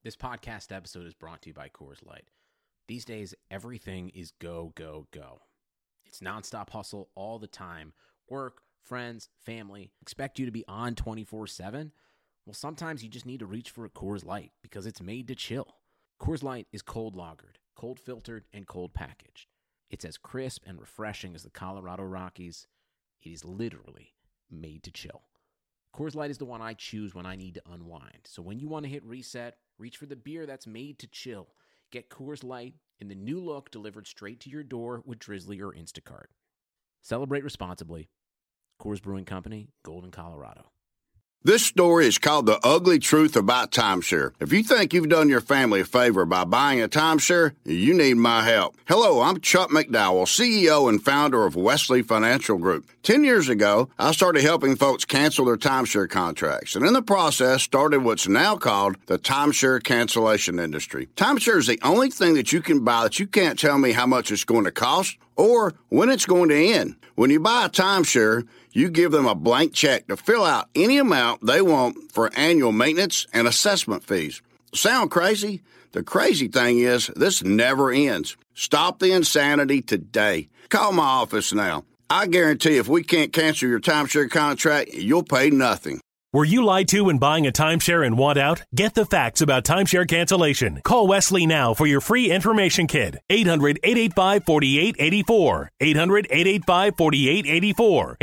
This podcast episode is brought to you by Coors Light. These days, everything is go, go, go. It's nonstop hustle all the time. Work, friends, family, expect you to be on 24/7. Well, sometimes you just need to reach for a Coors Light because it's made to chill. Coors Light is cold lagered, cold filtered, and cold packaged. It's as crisp and refreshing as the Colorado Rockies. It is literally made to chill. Coors Light is the one I choose when I need to unwind. So when you want to hit reset, reach for the beer that's made to chill. Get Coors Light in the new look delivered straight to your door with Drizzly or Instacart. Celebrate responsibly. Coors Brewing Company, Golden, Colorado. This story is called The Ugly Truth About Timeshare. If you think you've done your family a favor by buying a timeshare, you need my help. Hello, I'm Chuck McDowell, CEO and founder of Wesley Financial Group. 10 years ago, I started helping folks cancel their timeshare contracts, and in the process started what's now called the timeshare cancellation industry. Timeshare is the only thing that you can buy that you can't tell me how much it's going to cost or when it's going to end. When you buy a timeshare, you give them a blank check to fill out any amount they want for annual maintenance and assessment fees. Sound crazy? The crazy thing is, this never ends. Stop the insanity today. Call my office now. I guarantee if we can't cancel your timeshare contract, you'll pay nothing. Were you lied to when buying a timeshare and want out? Get the facts about timeshare cancellation. Call Wesley now for your free information kit. 800-885-4884. 800-885-4884.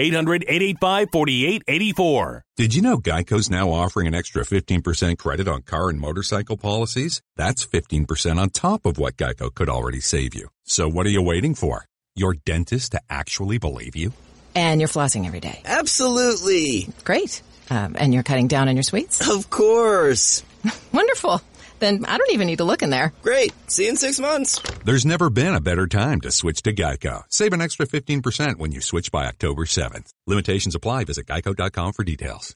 800-885-4884. Did you know Geico's now offering an extra 15% credit on car and motorcycle policies? That's 15% on top of what Geico could already save you. So what are you waiting for? Your dentist to actually believe you? And you're flossing every day. Absolutely. Great. And you're cutting down on your sweets? Of course. Wonderful. Then I don't even need to look in there. Great. See you in 6 months. There's never been a better time to switch to Geico. Save an extra 15% when you switch by October 7th. Limitations apply. Visit geico.com for details.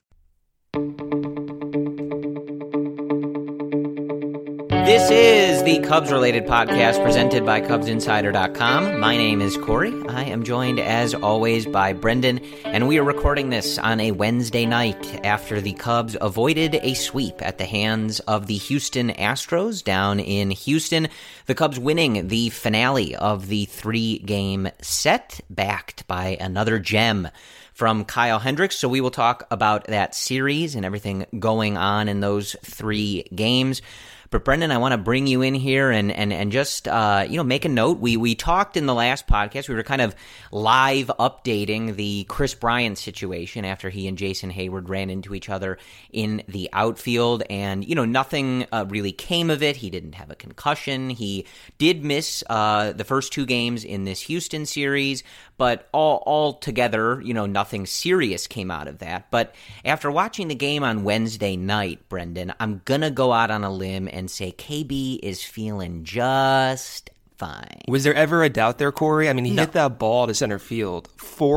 This is the Cubs-related podcast presented by CubsInsider.com. My name is Corey. I am joined, as always, by Brendan, and we are recording this on a Wednesday night after the Cubs avoided a sweep at the hands of the Houston Astros down in Houston. The Cubs winning the finale of the 3-game set, backed by another gem from Kyle Hendricks. So we will talk about that series and everything going on in those 3 games. But Brendan, I want to bring you in here and just make a note. We talked in the last podcast. We were kind of live updating the Chris Bryant situation after he and Jason Hayward ran into each other in the outfield, and nothing really came of it. He didn't have a concussion. He did miss the first 2 games in this Houston series, but all together, nothing serious came out of that. But after watching the game on Wednesday night, Brendan, I'm gonna go out on a limb and say KB is feeling just fine. Was there ever a doubt there, Corey? I mean, he hit that ball to center field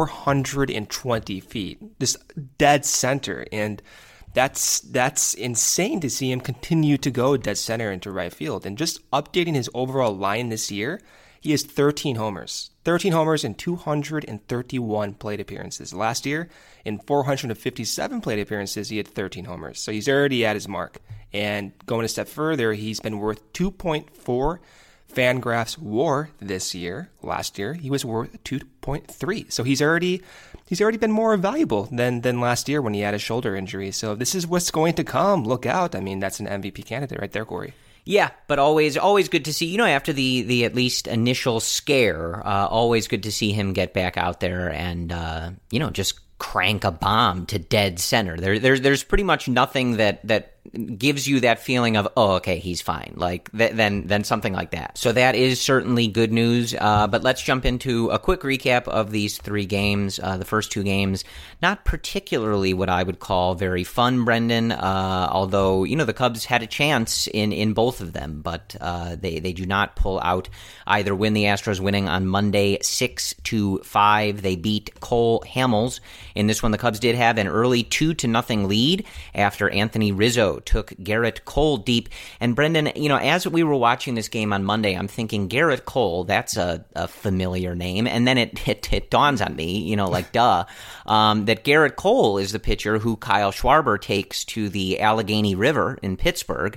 420 feet, just dead center, and that's insane to see him continue to go dead center into right field. And just updating his overall line this year, he has 13 homers. 13 homers in 231 plate appearances. Last year, in 457 plate appearances, he had 13 homers. So he's already at his mark. And going a step further, he's been worth 2.4 Fangraphs WAR this year. Last year, he was worth 2.3. So he's already been more valuable than last year when he had a shoulder injury. So this is what's going to come. Look out. I mean, that's an MVP candidate right there, Corey. Yeah, but always good to see, after the at least initial scare, always good to see him get back out there and, just crank a bomb to dead center. There's pretty much nothing that gives you that feeling of, oh, okay, he's fine, like then something like that. So that is certainly good news. But let's jump into a quick recap of these 3 games. The first 2 games, not particularly what I would call very fun, Brendan. Although the Cubs had a chance in both of them, but they do not pull out either win. The Astros winning on Monday 6-5. They beat Cole Hamels. In this one, the Cubs did have an early 2-0 lead after Anthony Rizzo Colorado took Garrett Cole deep. And Brendan, as we were watching this game on Monday, I'm thinking Garrett Cole, that's a familiar name. And then it dawns on me, that Garrett Cole is the pitcher who Kyle Schwarber takes to the Allegheny River in Pittsburgh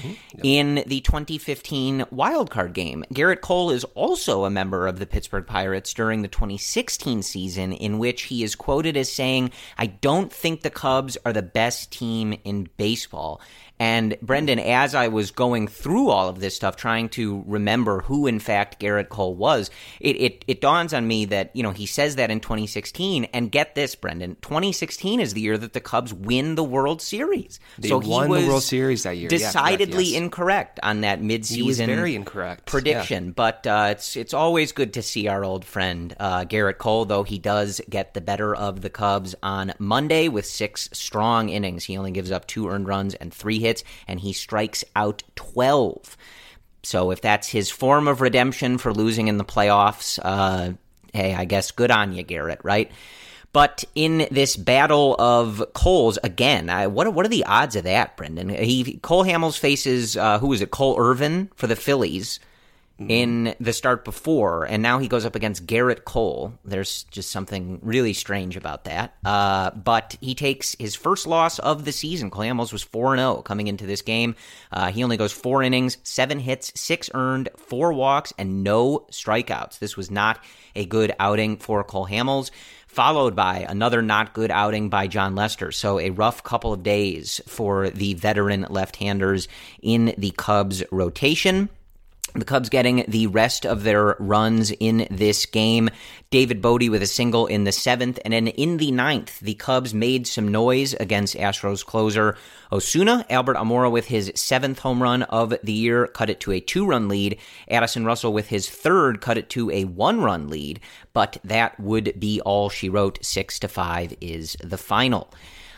in the 2015 wildcard game. Garrett Cole is also a member of the Pittsburgh Pirates during the 2016 season, in which he is quoted as saying, "I don't think the Cubs are the best team in baseball." And Brendan, as I was going through all of this stuff, trying to remember who in fact Garrett Cole was, it dawns on me that, he says that in 2016, and get this, Brendan, 2016 is the year that the Cubs win the World Series. They won the World Series that year. Decidedly incorrect on that midseason he was very incorrect prediction. But it's always good to see our old friend Garrett Cole, though he does get the better of the Cubs on Monday with 6 strong innings. He only gives up 2 earned runs and 3 hits, and he strikes out 12. So if that's his form of redemption for losing in the playoffs, hey, I guess good on you, Garrett, right? But in this battle of Coles, again, what are the odds of that, Brendan? Cole Hamels faces, who is it, Cole Irvin for the Phillies in the start before, and now he goes up against Garrett Cole. There's just something really strange about that. But he takes his first loss of the season. Cole Hamels was 4-0 coming into this game. He only goes 4 innings, 7 hits, 6 earned, 4 walks, and no strikeouts. This was not a good outing for Cole Hamels, followed by another not good outing by Jon Lester. So a rough couple of days for the veteran left-handers in the Cubs rotation. The Cubs getting the rest of their runs in this game. David Bodie with a single in the 7th, and then in the 9th, the Cubs made some noise against Astros closer Osuna. Albert Almora with his 7th home run of the year cut it to a 2-run lead. Addison Russell with his 3rd cut it to a 1-run lead, but that would be all she wrote. 6-5 is the final.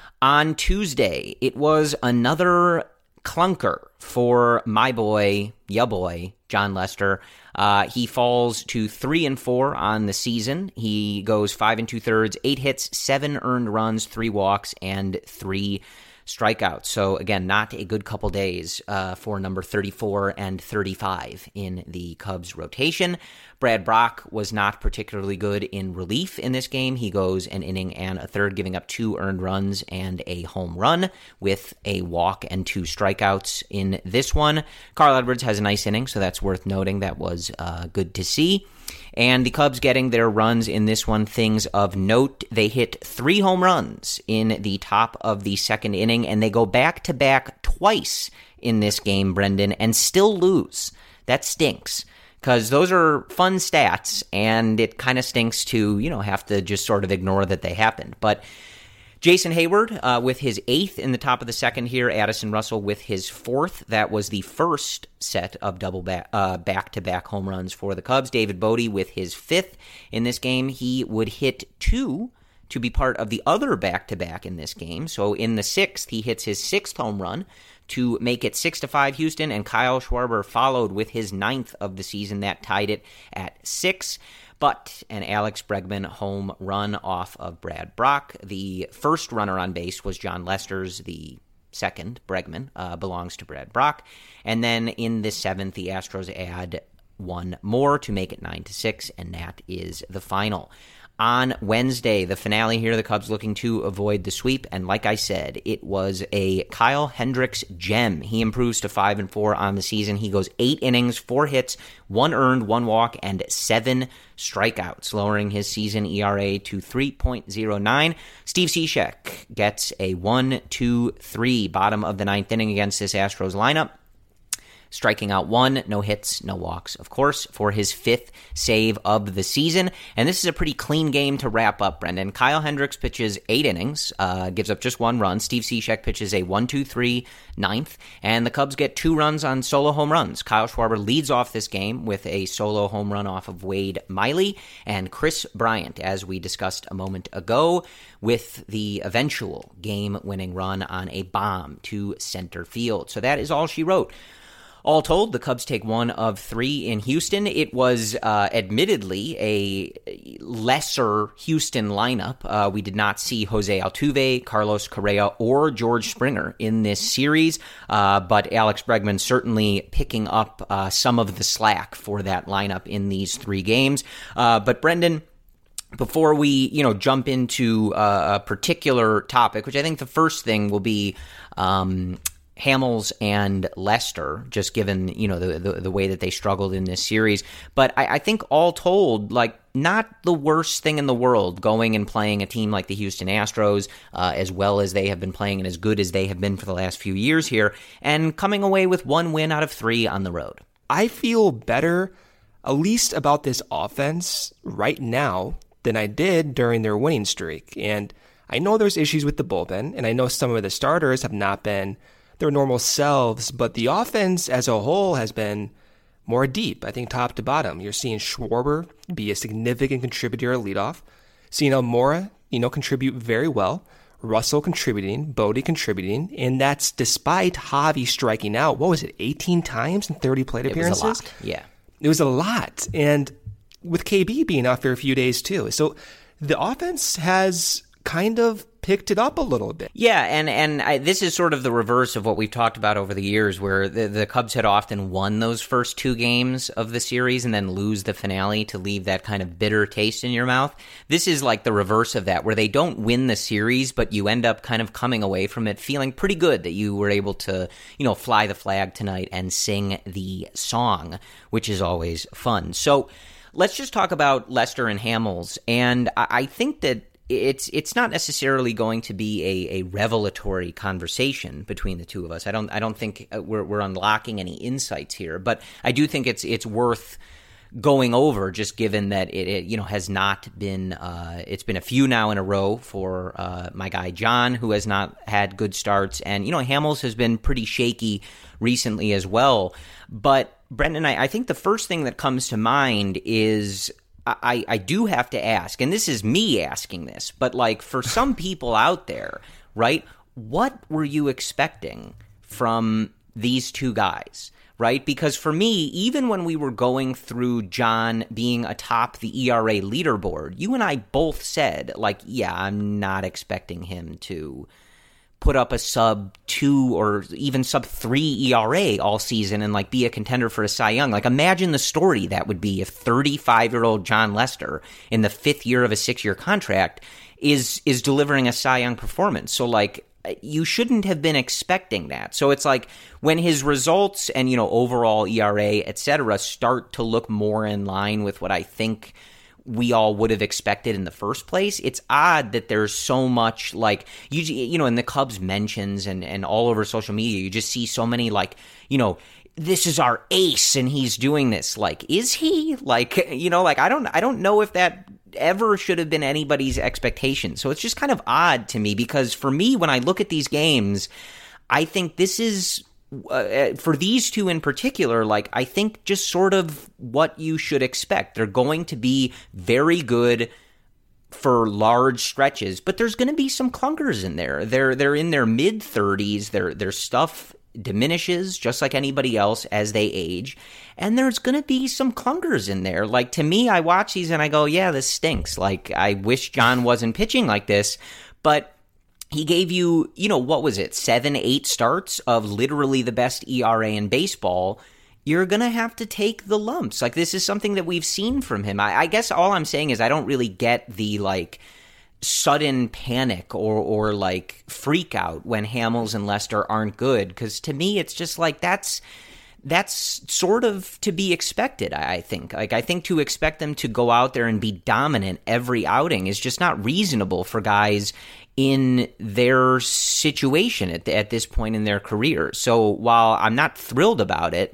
On Tuesday, it was another clunker for my boy, ya boy, Jon Lester. He falls to 3-4 on the season. He goes 5 2/3, 8 hits, 7 earned runs, 3 walks, and 3 strikeouts. So again, not a good couple days for number 34 and 35 in the Cubs rotation. Brad Brach was not particularly good in relief in this game. He goes an inning and a third, giving up 2 earned runs and a home run with a walk and 2 strikeouts in this one. Carl Edwards has a nice inning, so that's worth noting. That was good to see. And the Cubs getting their runs in this one, things of note. They hit 3 home runs in the top of the 2nd inning, and they go back-to-back twice in this game, Brendan, and still lose. That stinks, because those are fun stats, and it kind of stinks to, have to just sort of ignore that they happened. But Jason Hayward with his 8th in the top of the 2nd here. Addison Russell with his 4th. That was the first set of double back-to-back home runs for the Cubs. David Bodie with his 5th in this game. He would hit 2 to be part of the other back-to-back in this game. So in the 6th, he hits his 6th home run to make it 6-5 Houston, and Kyle Schwarber followed with his 9th of the season. That tied it at 6. But an Alex Bregman home run off of Brad Brach. The first runner on base was Jon Lester's. The second, Bregman, belongs to Brad Brach. And then in the 7th, the Astros add 1 more to make it 9-6, and that is the final. On Wednesday, the finale here, the Cubs looking to avoid the sweep, and like I said, it was a Kyle Hendricks gem. He improves to 5-4 on the season. He goes 8 innings, 4 hits, 1 earned, 1 walk, and 7 strikeouts, lowering his season ERA to 3.09. Steve Cishek gets a 1-2-3 bottom of the 9th inning against this Astros lineup, striking out 1, no hits, no walks, of course, for his 5th save of the season. And this is a pretty clean game to wrap up, Brendan. Kyle Hendricks pitches 8 innings, gives up just 1 run. Steve Cishek pitches a 1-2-3 9th, and the Cubs get 2 runs on solo home runs. Kyle Schwarber leads off this game with a solo home run off of Wade Miley, and Chris Bryant, as we discussed a moment ago, with the eventual game-winning run on a bomb to center field. So that is all she wrote. All told, the Cubs take 1 of 3 in Houston. It was admittedly a lesser Houston lineup. We did not see Jose Altuve, Carlos Correa, or George Springer in this series, but Alex Bregman certainly picking up some of the slack for that lineup in these 3 games. But Brendan, before we jump into a particular topic, which I think the first thing will be Hamels and Lester, just given, the way that they struggled in this series. But I think all told, not the worst thing in the world going and playing a team like the Houston Astros, as well as they have been playing and as good as they have been for the last few years here, and coming away with 1 win out of 3 on the road. I feel better, at least about this offense right now, than I did during their winning streak. And I know there's issues with the bullpen, and I know some of the starters have not been their normal selves, but the offense as a whole has been more deep, I think top to bottom. You're seeing Schwarber be a significant contributor at leadoff, seeing Almora, contribute very well, Russell contributing, Bodie contributing, and that's despite Javi striking out, 18 times in 30 plate appearances? It was a lot, yeah. It was a lot, and with KB being out for a few days too. So the offense has kind of picked it up a little bit. Yeah, and this is sort of the reverse of what we've talked about over the years, where the Cubs had often won those first 2 games of the series and then lose the finale to leave that kind of bitter taste in your mouth. This is like the reverse of that, where they don't win the series, but you end up kind of coming away from it feeling pretty good that you were able to, fly the flag tonight and sing the song, which is always fun. So let's just talk about Lester and Hamels, and I think that it's not necessarily going to be a revelatory conversation between the two of us. I don't think we're unlocking any insights here, but I do think it's worth going over, just given that it has not been it's been a few now in a row for my guy John, who has not had good starts, and Hamels has been pretty shaky recently as well. But Brendan, I think the first thing that comes to mind is I do have to ask, and this is me asking this, but for some people out there, right, what were you expecting from these 2 guys, right? Because for me, even when we were going through John being atop the ERA leaderboard, you and I both said, yeah, I'm not expecting him to put up a sub-2 or even sub-3 ERA all season and be a contender for a Cy Young. Imagine the story that would be if 35-year-old John Lester in the 5th year of a 6-year contract is delivering a Cy Young performance. So you shouldn't have been expecting that. So it's when his results and overall ERA, etc., start to look more in line with what I think we all would have expected in the first place, it's odd that there's so much in the Cubs mentions and all over social media, you just see so many this is our ace and he's doing this. Is he? I don't know if that ever should have been anybody's expectation. So it's just kind of odd to me, because for me, when I look at these games, I think this is for these 2 in particular, I think just sort of what you should expect. They're going to be very good for large stretches, but there's going to be some clunkers in there. They're in their mid-30s. Their stuff diminishes just like anybody else as they age, and there's going to be some clunkers in there. To me, I watch these and I go, yeah, this stinks. I wish John wasn't pitching like this, but he gave you, what was it, 7-8 starts of literally the best ERA in baseball. You're going to have to take the lumps. This is something that we've seen from him. I guess all I'm saying is I don't really get the, sudden panic or freak out when Hamels and Lester aren't good, because to me it's just that's sort of to be expected, I think. I think to expect them to go out there and be dominant every outing is just not reasonable for guys in their situation at this point in their career. So while I'm not thrilled about it,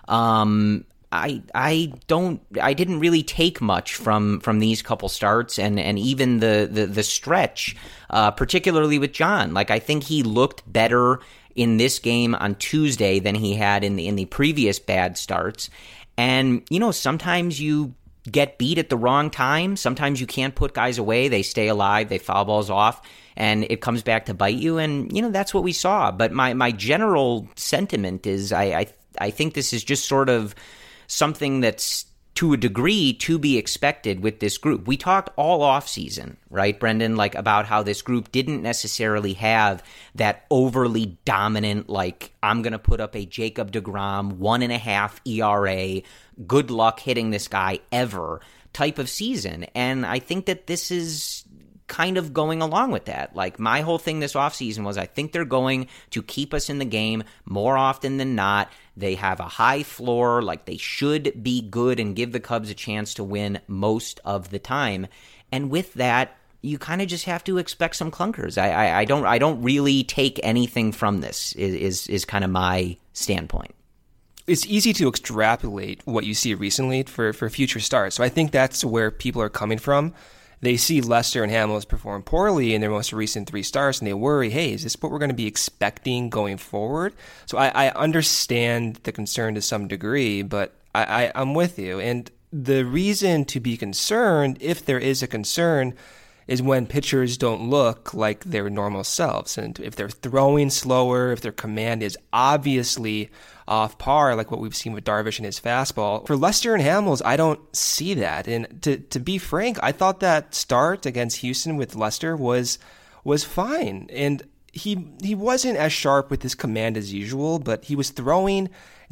I didn't really take much from these couple starts and even the stretch, particularly with John. I think he looked better in this game on Tuesday than he had in the previous bad starts. And sometimes you get beat at the wrong time. Sometimes you can't put guys away. They stay alive. They foul balls off, and it comes back to bite you. And that's what we saw. But my general sentiment is I I think this is just sort of something that's to a degree to be expected with this group. We talked all offseason, right, Brendan, like about how this group didn't necessarily have that overly dominant, like, I'm going to put up a Jacob deGrom 1.5 ERA, good luck hitting this guy ever type of season. And I think that this is kind of going along with that. Like, my whole thing this offseason was I think they're going to keep us in the game more often than not. They have a high floor, like they should be good and give the Cubs a chance to win most of the time. And with that, you kind of just have to expect some clunkers. I don't really take anything from this is kind of my standpoint. It's easy to extrapolate what you see recently for future starts. So I think that's where people are coming from. They see Lester and Hamels perform poorly in their most recent 3 starts, and they worry, hey, is this what we're going to be expecting going forward? So I understand the concern to some degree, but I'm with you. And the reason to be concerned, if there is a concern, is when pitchers don't look like their normal selves. And if they're throwing slower, if their command is obviously off par, like what we've seen with Darvish and his fastball. For Lester and Hamels, I don't see that. And to be frank, I thought that start against Houston with Lester was fine. And he wasn't as sharp with his command as usual, but he was throwing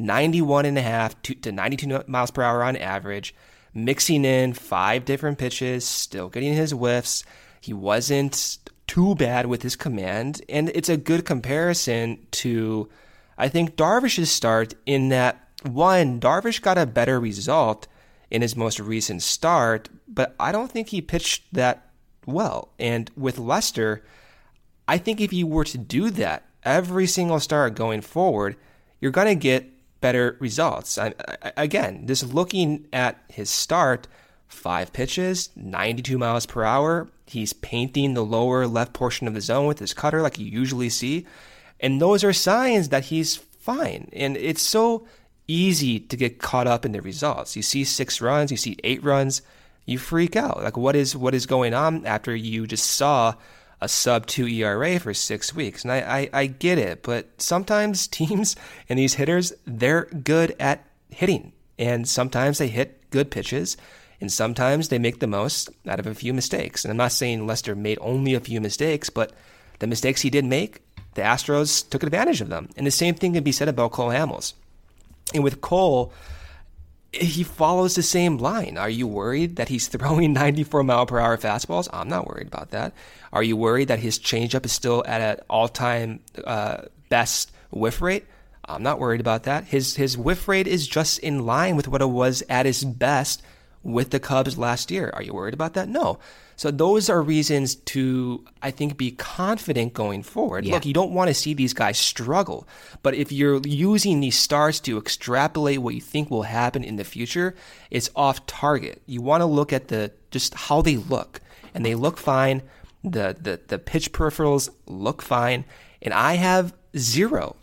91.5 to 92 miles per hour on average, mixing in 5 different pitches, still getting his whiffs. He wasn't too bad with his command. And it's a good comparison to, I think, Darvish's start in that, one, Darvish got a better result in his most recent start, but I don't think he pitched that well. And with Lester, I think if you were to do that every single start going forward, you're going to get better results. Again, just looking at his start, 5 pitches, 92 miles per hour. He's painting the lower left portion of the zone with his cutter like you usually see. And those are signs that he's fine. And it's so easy to get caught up in the results. You see 6 runs, you see 8 runs, you freak out. Like, what is going on after you just saw a sub-2 ERA for 6 weeks? And I get it, but sometimes teams and these hitters, they're good at hitting. And sometimes they hit good pitches, and sometimes they make the most out of a few mistakes. And I'm not saying Lester made only a few mistakes, but the mistakes he did make, the Astros took advantage of them. And the same thing can be said about Cole Hamels. And with Cole, he follows the same line. Are you worried that he's throwing 94-mile-per-hour fastballs? I'm not worried about that. Are you worried that his changeup is still at an all-time best whiff rate? I'm not worried about that. His whiff rate is just in line with what it was at his best with the Cubs last year. Are you worried about that? No. So those are reasons to, I think, be confident going forward. Yeah. Look, you don't want to see these guys struggle, but if you're using these starts to extrapolate what you think will happen in the future, it's off target. You want to look at just how they look, and they look fine. The pitch peripherals look fine, and I have zero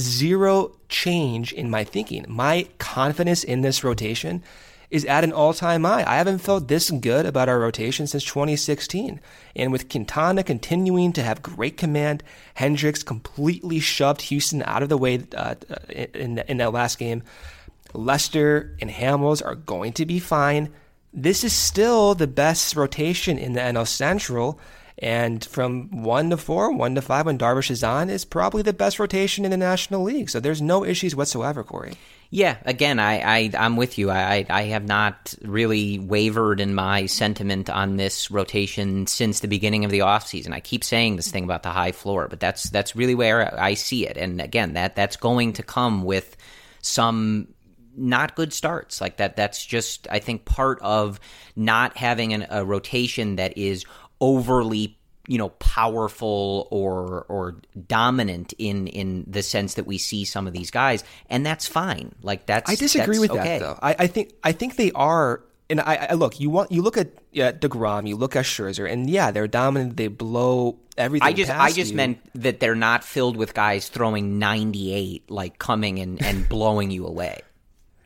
change in my thinking. My confidence in this rotation is at an all-time high. I haven't felt this good about our rotation since 2016. And with Quintana continuing to have great command, Hendricks completely shoved Houston out of the way in that last game. Lester and Hamels are going to be fine. This is still the best rotation in the NL Central. And from 1 to 4, 1 to 5 when Darvish is on is probably the best rotation in the National League. So there's no issues whatsoever, Corey. Yeah, again, I'm with you. I have not really wavered in my sentiment on this rotation since the beginning of the offseason. I keep saying this thing about the high floor, but that's really where I see it. And again, that's going to come with some not good starts. Like that's just, I think, part of not having a rotation that is overly, powerful or dominant in the sense that we see some of these guys, and that's fine. Like I disagree with okay. that though. I think they are. And I look. You look at DeGrom, you look at Scherzer, and yeah, they're dominant. They blow everything. I just meant that they're not filled with guys throwing 98, like coming and blowing you away.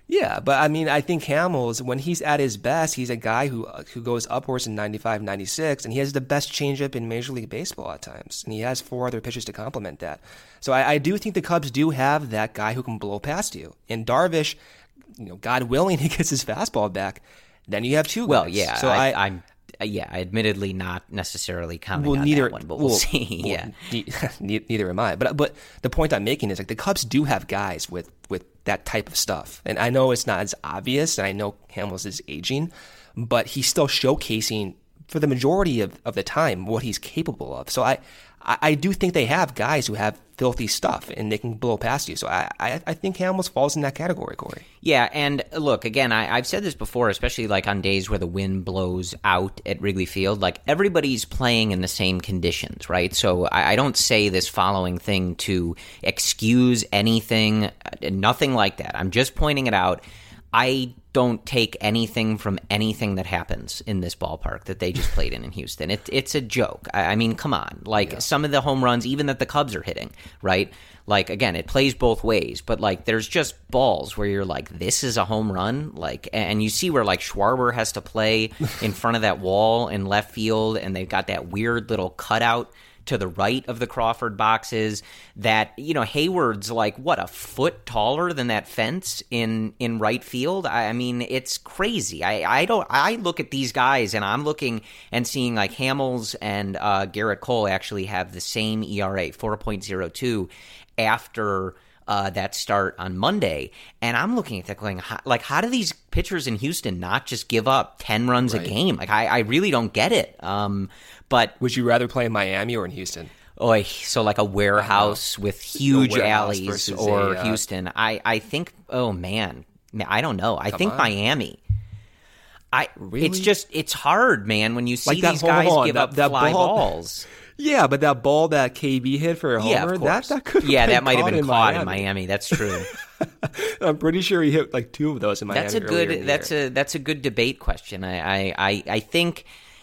Yeah, but I mean, I think Hamels, when he's at his best, he's a guy who goes upwards in 95, 96, and he has the best changeup in Major League Baseball at times, and he has 4 other pitches to complement that. So I do think the Cubs do have that guy who can blow past you. And Darvish, God willing, he gets his fastball back. Then you have 2 guys. Well, yeah, so I'm admittedly not necessarily commenting on that one, but we'll see. Neither am I. But the point I'm making is, like, the Cubs do have guys with that type of stuff. And I know it's not as obvious, and I know Hamels is aging, but he's still showcasing for the majority of the time what he's capable of. So I do think they have guys who have filthy stuff and they can blow past you. So I think Hamels falls in that category, Corey. Yeah, and look, again, I've said this before, especially like on days where the wind blows out at Wrigley Field, like everybody's playing in the same conditions, right? So I don't say this following thing to excuse anything, nothing like that. I'm just pointing it out. I don't take anything from anything that happens in this ballpark that they just played in Houston. It's a joke. I mean, come on. Like, some of the home runs, even that the Cubs are hitting, right? Like, again, it plays both ways, but, like, there's just balls where you're like, this is a home run? Like, and you see where, like, Schwarber has to play in front of that wall in left field, and they've got that weird little cutout to the right of the Crawford boxes that, Hayward's like, what, a foot taller than that fence in right field? I mean, it's crazy. I look at these guys and I'm looking and seeing like Hamels and Garrett Cole actually have the same ERA, 4.02 after that start on Monday. And I'm looking at that going, how do these pitchers in Houston not just give up 10 runs a game? Like, I really don't get it. But would you rather play in Miami or in Houston? So like a warehouse with huge alleys or Houston. I think, oh man, I don't know. I think Miami. Really? It's hard, man, when you see these guys give up fly balls. Yeah, but that ball that KB hit for a homer, that could have that might have been caught in Miami. That's true. I'm pretty sure he hit like 2 of those in Miami. That's a good debate question. I think.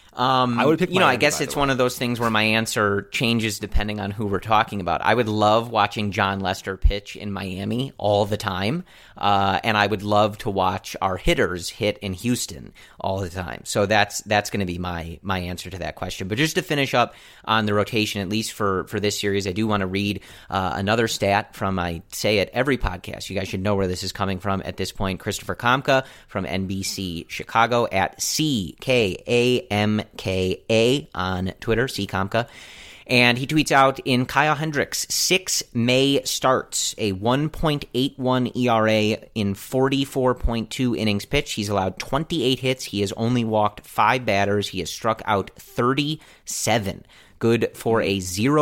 I would pick Miami, I guess it's one of those things where my answer changes depending on who we're talking about. I would love watching John Lester pitch in Miami all the time, and I would love to watch our hitters hit in Houston all the time. So that's going to be my answer to that question. But just to finish up on the rotation, at least for this series, I do want to read another stat from, I say it every podcast. You guys should know where this is coming from at this point. Christopher Kamka from NBC Chicago at CKAMKA on Twitter, CKamka. And he tweets out, in Kyle Hendricks' 6 May starts, a 1.81 ERA in 44.2 innings pitched. He's allowed 28 hits. He has only walked 5 batters. He has struck out 37. Good for a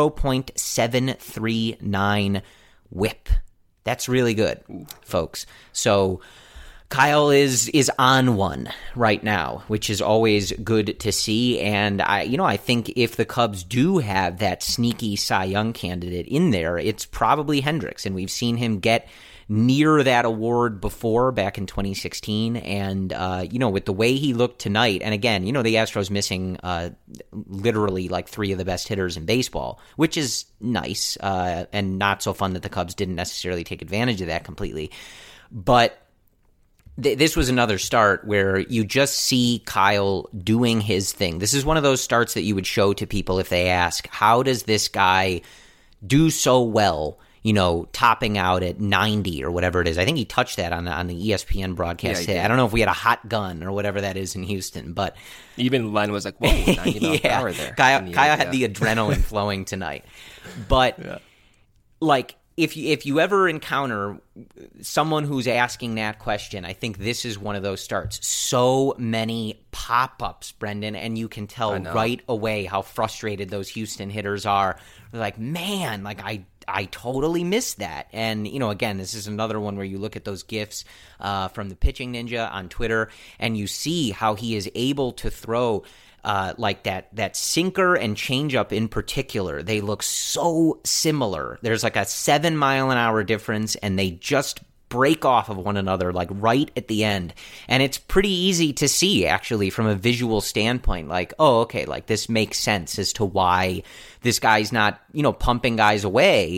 0.739 whip. That's really good, folks. So Kyle is on one right now, which is always good to see. And I think if the Cubs do have that sneaky Cy Young candidate in there, it's probably Hendricks. And we've seen him get near that award before, back in 2016. And, with the way he looked tonight, and again, the Astros missing literally like 3 of the best hitters in baseball, which is nice and not so fun that the Cubs didn't necessarily take advantage of that completely. But this was another start where you just see Kyle doing his thing. This is one of those starts that you would show to people if they ask, how does this guy do so well, topping out at 90 or whatever it is? I think he touched that on the ESPN broadcast. I don't know if we had a hot gun or whatever that is in Houston, but even Len was like, whoa, 90 miles per hour there. Kyle had the adrenaline flowing tonight. But if you ever encounter someone who's asking that question, I think this is one of those starts. So many pop-ups, Brendan, and you can tell right away how frustrated those Houston hitters are. They're like, man, I totally missed that. And, again, this is another one where you look at those GIFs from the Pitching Ninja on Twitter, and you see how he is able to throw that sinker and changeup in particular. They look so similar. There's like a 7-mile-an-hour difference, and they just break off of one another like right at the end. And it's pretty easy to see, actually, from a visual standpoint, like, oh, okay, like this makes sense as to why this guy's not, pumping guys away.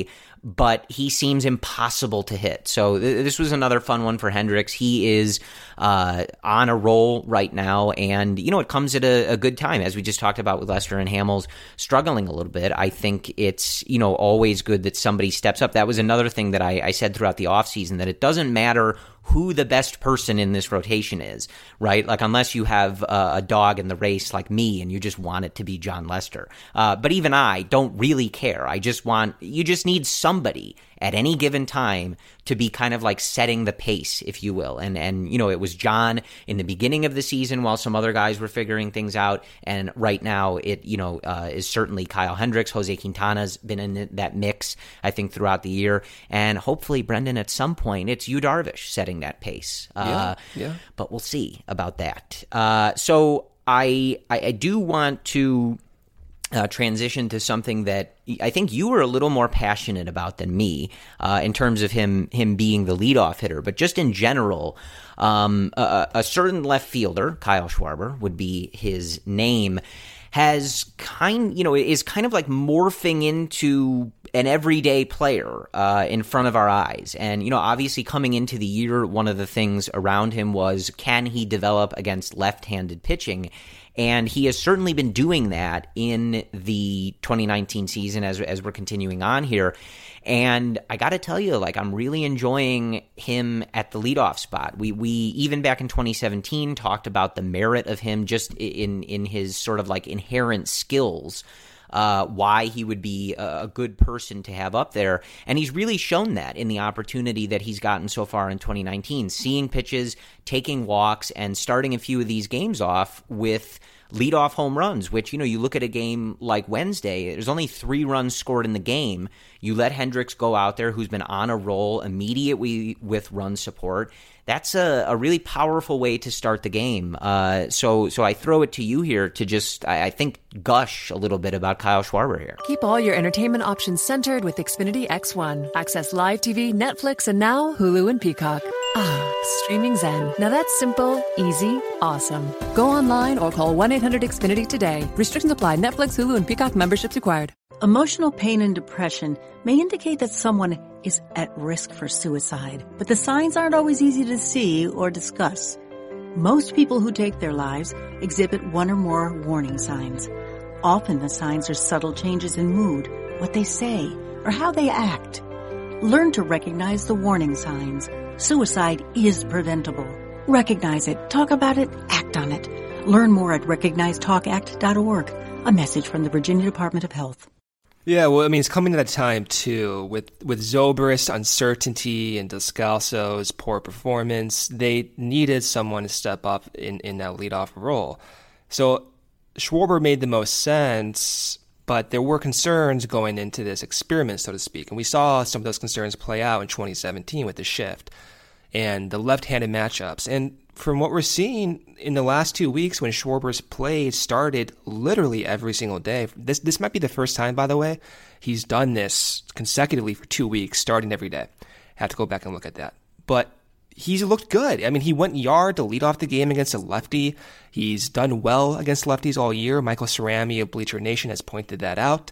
but he seems impossible to hit. So this was another fun one for Hendricks. He is on a roll right now, and it comes at a good time, as we just talked about with Lester and Hamels struggling a little bit. I think it's always good that somebody steps up. That was another thing that I said throughout the offseason, that it doesn't matter who the best person in this rotation is, right? Like, unless you have a dog in the race like me and you just want it to be Jon Lester. But even I don't really care. You just need somebody at any given time to be kind of like setting the pace, if you will. And it was John in the beginning of the season while some other guys were figuring things out. And right now it, is certainly Kyle Hendricks. Jose Quintana's been in that mix, I think, throughout the year. And hopefully, Brendan, at some point, it's Yu Darvish setting that pace. But we'll see about that. So I do want to transition to something that I think you were a little more passionate about than me in terms of him being the leadoff hitter. But just in general, a certain left fielder, Kyle Schwarber would be his name, is kind of like morphing into an everyday player in front of our eyes. And, obviously coming into the year, one of the things around him was, can he develop against left-handed pitching? And he has certainly been doing that in the 2019 season as we're continuing on here. And I got to tell you, I'm really enjoying him at the leadoff spot. We even back in 2017 talked about the merit of him just in his sort of inherent skills, why he would be a good person to have up there. And he's really shown that in the opportunity that he's gotten so far in 2019, seeing pitches, taking walks, and starting a few of these games off with leadoff home runs, which, you look at a game like Wednesday, there's only 3 runs scored in the game. You let Hendricks go out there, who's been on a roll immediately with run support. That's a really powerful way to start the game. So I throw it to you here to just, I think, gush a little bit about Kyle Schwarber here. Keep all your entertainment options centered with Xfinity X1. Access live TV, Netflix, and now Hulu and Peacock. Streaming Zen. Now that's simple, easy, awesome. Go online or call 1-800-XFINITY today. Restrictions apply. Netflix, Hulu, and Peacock memberships required. Emotional pain and depression may indicate that someone is at risk for suicide, but the signs aren't always easy to see or discuss. Most people who take their lives exhibit one or more warning signs. Often the signs are subtle changes in mood, what they say, or how they act. Learn to recognize the warning signs. Suicide is preventable. Recognize it, talk about it, act on it. Learn more at recognizetalkact.org. A message from the Virginia Department of Health. Yeah, well, it's coming to that time, too, with Zobrist's uncertainty and Descalso's poor performance. They needed someone to step up in that leadoff role. So Schwarber made the most sense, but there were concerns going into this experiment, so to speak. And we saw some of those concerns play out in 2017 with the shift and the left-handed matchups. And from what we're seeing in the last 2 weeks, when Schwarber's play started literally every single day, this might be the first time, by the way, he's done this consecutively for 2 weeks, starting every day. Have to go back and look at that. But he's looked good. He went yard to lead off the game against a lefty. He's done well against lefties all year. Michael Cerami of Bleacher Nation has pointed that out.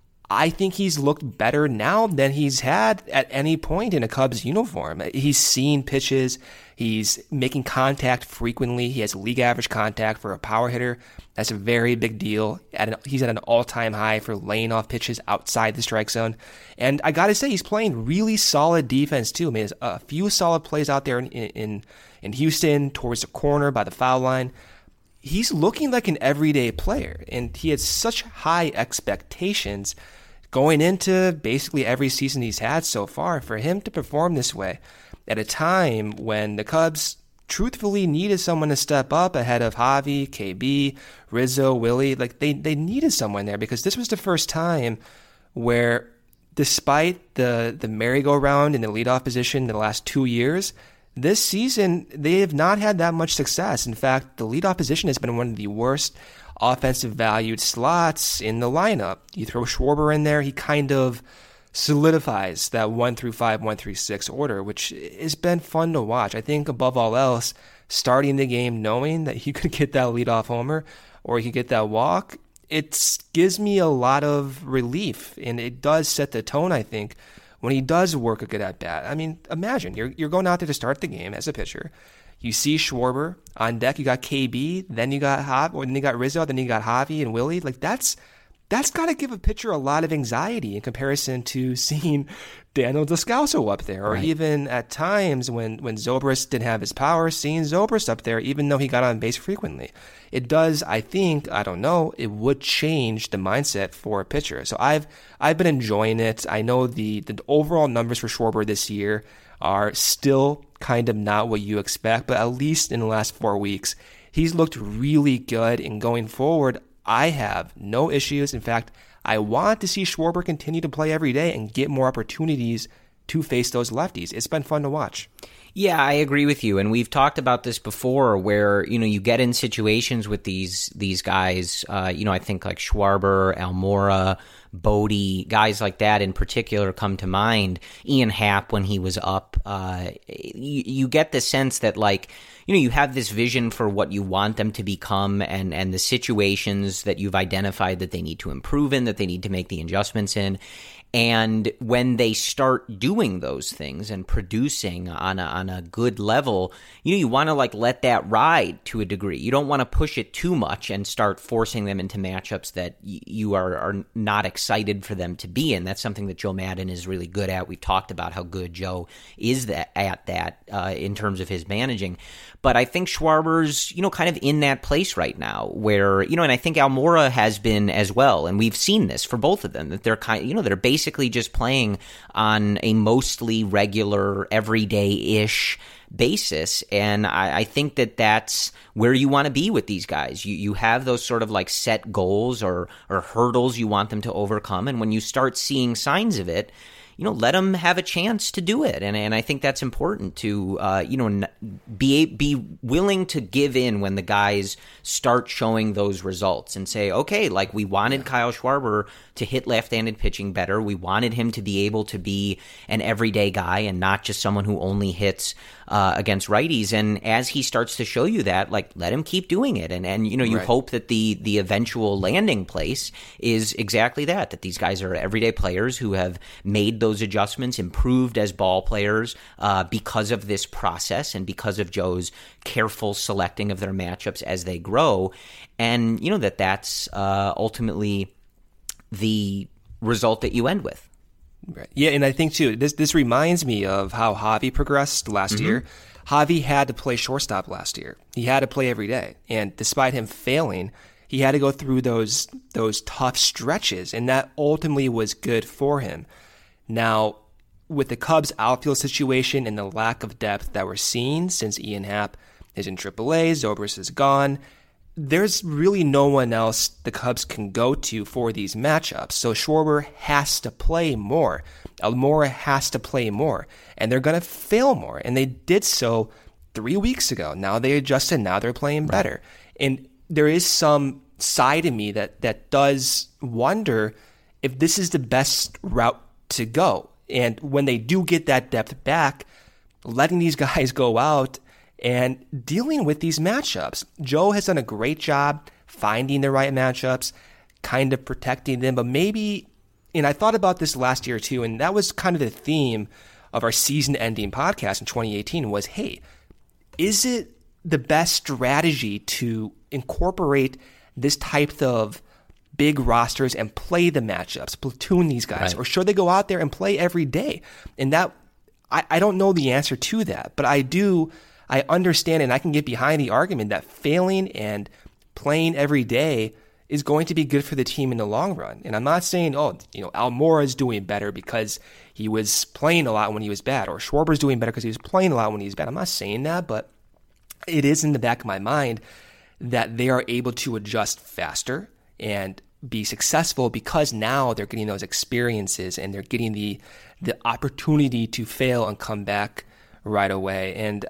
I think he's looked better now than he's had at any point in a Cubs uniform. He's seen pitches. He's making contact frequently. He has league average contact for a power hitter. That's a very big deal. He's at an all-time high for laying off pitches outside the strike zone. And I got to say, he's playing really solid defense, too. There's a few solid plays out there in Houston towards the corner by the foul line. He's looking like an everyday player, and he had such high expectations going into basically every season he's had so far. For him to perform this way at a time when the Cubs truthfully needed someone to step up ahead of Javi, KB, Rizzo, Willie, they needed someone there, because this was the first time where, despite the merry-go-round in the leadoff position in the last 2 years, this season they have not had that much success. In fact, the leadoff position has been one of the worst offensive valued slots in the lineup. You throw Schwarber in there, he kind of solidifies that 1 through 5, 1 through 6 order, which has been fun to watch. I think above all else, starting the game knowing that you could get that leadoff homer or you could get that walk, it gives me a lot of relief, and it does set the tone, I think, when he does work a good at bat, I mean, imagine you're going out there to start the game as a pitcher. You see Schwarber on deck. You got KB, then you got then you got Rizzo, then you got Javi and Willie. Like that's got to give a pitcher a lot of anxiety in comparison to seeing Daniel Descalso up there, or even at times when Zobrist didn't have his power, seeing Zobrist up there, even though he got on base frequently. It does, I think, I don't know, it would change the mindset for a pitcher. So I've been enjoying it. I know the overall numbers for Schwarber this year are still kind of not what you expect, but at least in the last 4 weeks, he's looked really good. And going forward, I have no issues. In fact, I want to see Schwarber continue to play every day and get more opportunities to face those lefties. It's been fun to watch. Yeah, I agree with you. And we've talked about this before where, you get in situations with these guys, I think like Schwarber, Almora, Bodie, guys like that in particular come to mind. Ian Happ when he was up. You get the sense that you have this vision for what you want them to become and the situations that you've identified that they need to improve in, that they need to make the adjustments in. And when they start doing those things and producing on a good level, you want to let that ride to a degree. You don't want to push it too much and start forcing them into matchups that you are not excited for them to be in. That's something that Joe Maddon is really good at. We've talked about how good Joe is at that in terms of his managing. But I think Schwarber's, kind of in that place right now where, and I think Almora has been as well. And we've seen this for both of them, that they're they're basically just playing on a mostly regular, everyday-ish basis. And I think that that's where you want to be with these guys. You have those sort of set goals or hurdles you want them to overcome. And when you start seeing signs of it, let them have a chance to do it. And I think that's important to, be willing to give in when the guys start showing those results and say, okay, we wanted Kyle Schwarber to hit left-handed pitching better. We wanted him to be able to be an everyday guy and not just someone who only hits against righties. And as he starts to show you that, let him keep doing it. And you hope that the eventual landing place is exactly that these guys are everyday players who have made those adjustments, improved as ball players because of this process and because of Joe's careful selecting of their matchups as they grow. And, that's ultimately the result that you end with. Right. Yeah, and I think, too, this reminds me of how Javi progressed last year. Javi had to play shortstop last year. He had to play every day. And despite him failing, he had to go through those tough stretches, and that ultimately was good for him. Now, with the Cubs' outfield situation and the lack of depth that we're seeing since Ian Happ is in AAA, Zobrist is gone, there's really no one else the Cubs can go to for these matchups. So Schwarber has to play more. Almora has to play more. And they're going to fail more. And they did so 3 weeks ago. Now they adjusted. Now they're playing better. And there is some side of me that does wonder if this is the best route to go. And when they do get that depth back, letting these guys go out and dealing with these matchups. Joe has done a great job finding the right matchups, kind of protecting them, but maybe, and I thought about this last year too, and that was kind of the theme of our season-ending podcast in 2018 was, hey, is it the best strategy to incorporate this type of big rosters and play the matchups, platoon these guys, or should they go out there and play every day? And that, I don't know the answer to that, but I understand and I can get behind the argument that failing and playing every day is going to be good for the team in the long run. And I'm not saying, Almora is doing better because he was playing a lot when he was bad, or Schwarber's doing better because he was playing a lot when he was bad. I'm not saying that, but it is in the back of my mind that they are able to adjust faster and be successful because now they're getting those experiences and they're getting the opportunity to fail and come back right away. And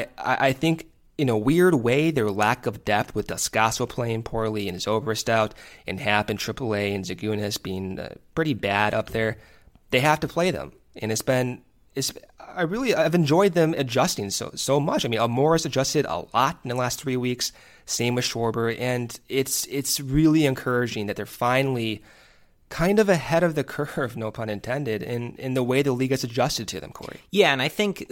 I think in a weird way, their lack of depth with Descalso playing poorly and Zobrist out and Happ in AAA and Zagunas being pretty bad up there, they have to play them. And I've enjoyed them adjusting so much. I mean, Almora's adjusted a lot in the last 3 weeks. Same with Schwarber. And it's really encouraging that they're finally kind of ahead of the curve, no pun intended, in the way the league has adjusted to them, Corey. Yeah, and I think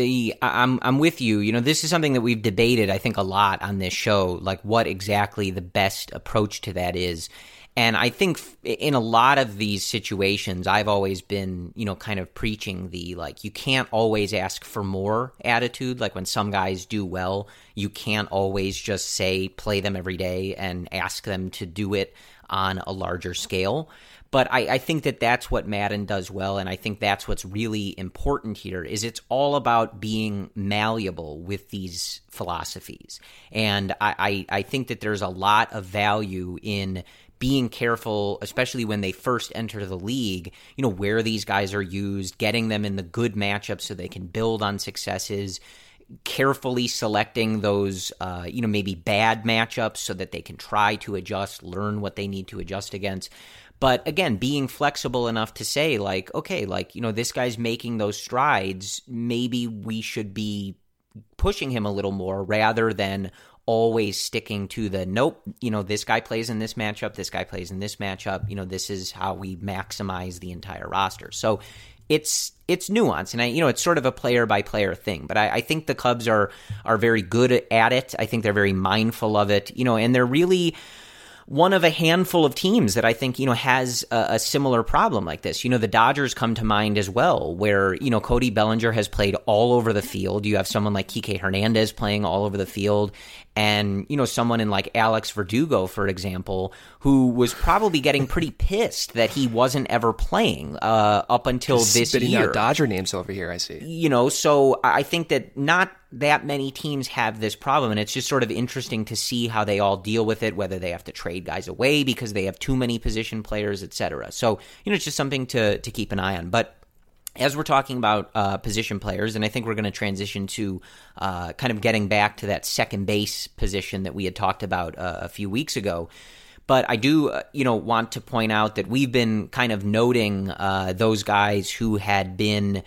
I'm with you. You know, this is something that we've debated, I think, a lot on this show, like what exactly the best approach to that is. And I think in a lot of these situations, I've always been, you know, kind of preaching the, like, you can't always ask for more attitude. Like when some guys do well, you can't always just say, play them every day and ask them to do it on a larger scale. But I think that that's what Madden does well, and I think that's what's really important here is it's all about being malleable with these philosophies. And I think that there's a lot of value in being careful, especially when they first enter the league, you know, where these guys are used, getting them in the good matchups so they can build on successes, carefully selecting those, you know, maybe bad matchups so that they can try to adjust, learn what they need to adjust against. But again, being flexible enough to say, like, okay, like, you know, this guy's making those strides. Maybe we should be pushing him a little more rather than always sticking to the, nope, you know, this guy plays in this matchup, this guy plays in this matchup. You know, this is how we maximize the entire roster. So it's nuance, and it's sort of a player by player thing. But I think the Cubs are very good at it. I think they're very mindful of it, you know, and they're really one of a handful of teams that I think, you know, has a similar problem like this. You know, the Dodgers come to mind as well, where, you know, Cody Bellinger has played all over the field. You have someone like Kike Hernandez playing all over the field. And, you know, someone in like Alex Verdugo, for example, who was probably getting pretty pissed that he wasn't ever playing up until this year. Spitting out Dodger names over here, I see. You know, so I think that not that many teams have this problem, and it's just sort of interesting to see how they all deal with it, whether they have to trade guys away because they have too many position players, et cetera. So, you know, it's just something to keep an eye on. But as we're talking about position players, and I think we're going to transition to kind of getting back to that second base position that we had talked about a few weeks ago. But I do, want to point out that we've been kind of noting those guys who had been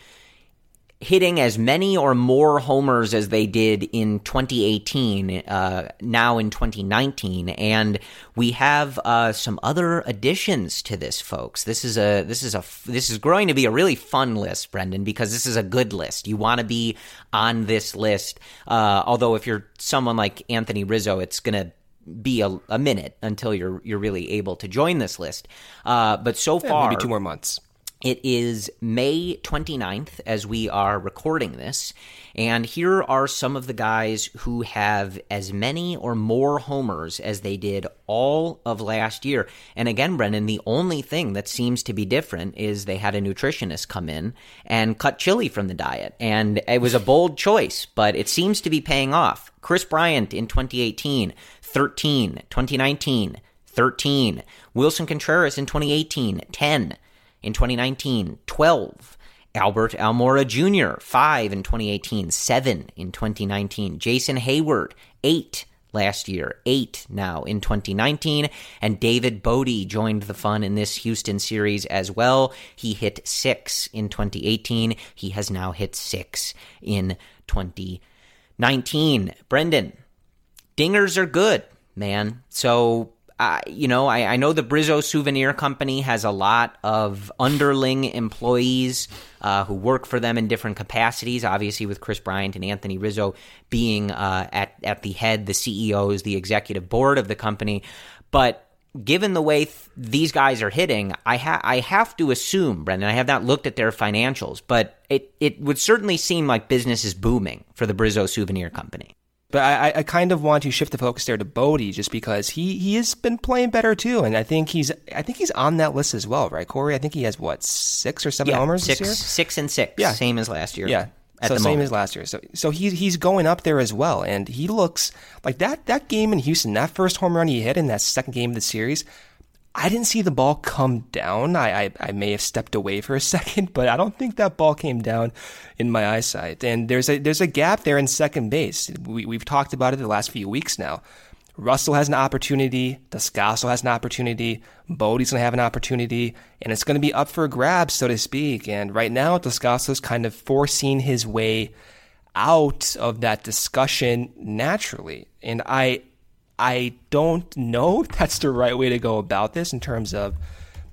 hitting as many or more homers as they did in 2018, now in 2019, and we have some other additions to this, folks. This is going to be a really fun list, Brendan, because this is a good list. You want to be on this list. Although if you're someone like Anthony Rizzo, it's going to be a minute until you're really able to join this list. But so far, maybe 2 more months. It is May 29th as we are recording this, and here are some of the guys who have as many or more homers as they did all of last year. And again, Brendan, the only thing that seems to be different is they had a nutritionist come in and cut chili from the diet, and it was a bold choice, but it seems to be paying off. Chris Bryant in 2018, 13, 2019, 13, Wilson Contreras in 2018, 10, in 2019, 12. Albert Almora Jr., 5 in 2018, 7 in 2019. Jason Hayward, 8 last year, 8 now in 2019. And David Bodie joined the fun in this Houston series as well. He hit 6 in 2018. He has now hit 6 in 2019. Brendan, dingers are good, man. So I know the Brizzo Souvenir Company has a lot of underling employees who work for them in different capacities, obviously with Chris Bryant and Anthony Rizzo being at the head, the CEOs, the executive board of the company. But given the way these guys are hitting, I have to assume, Brendan, I have not looked at their financials, but it would certainly seem like business is booming for the Brizzo Souvenir Company. But I kind of want to shift the focus there to Bodie just because he has been playing better too, and I think he's on that list as well, right, Corey? I think he has 6 or 7 homers this year. 6 and 6, yeah, same as last year. Yeah, same as last year. So he's going up there as well, and he looks like that game in Houston, that first home run he hit in that second game of the series. I didn't see the ball come down. I may have stepped away for a second, but I don't think that ball came down in my eyesight. And there's a gap there in second base. We've talked about it the last few weeks now. Russell has an opportunity. Descalso has an opportunity. Bodie's going to have an opportunity. And it's going to be up for grabs, so to speak. And right now, Descalso's kind of forcing his way out of that discussion naturally. And I don't know if that's the right way to go about this in terms of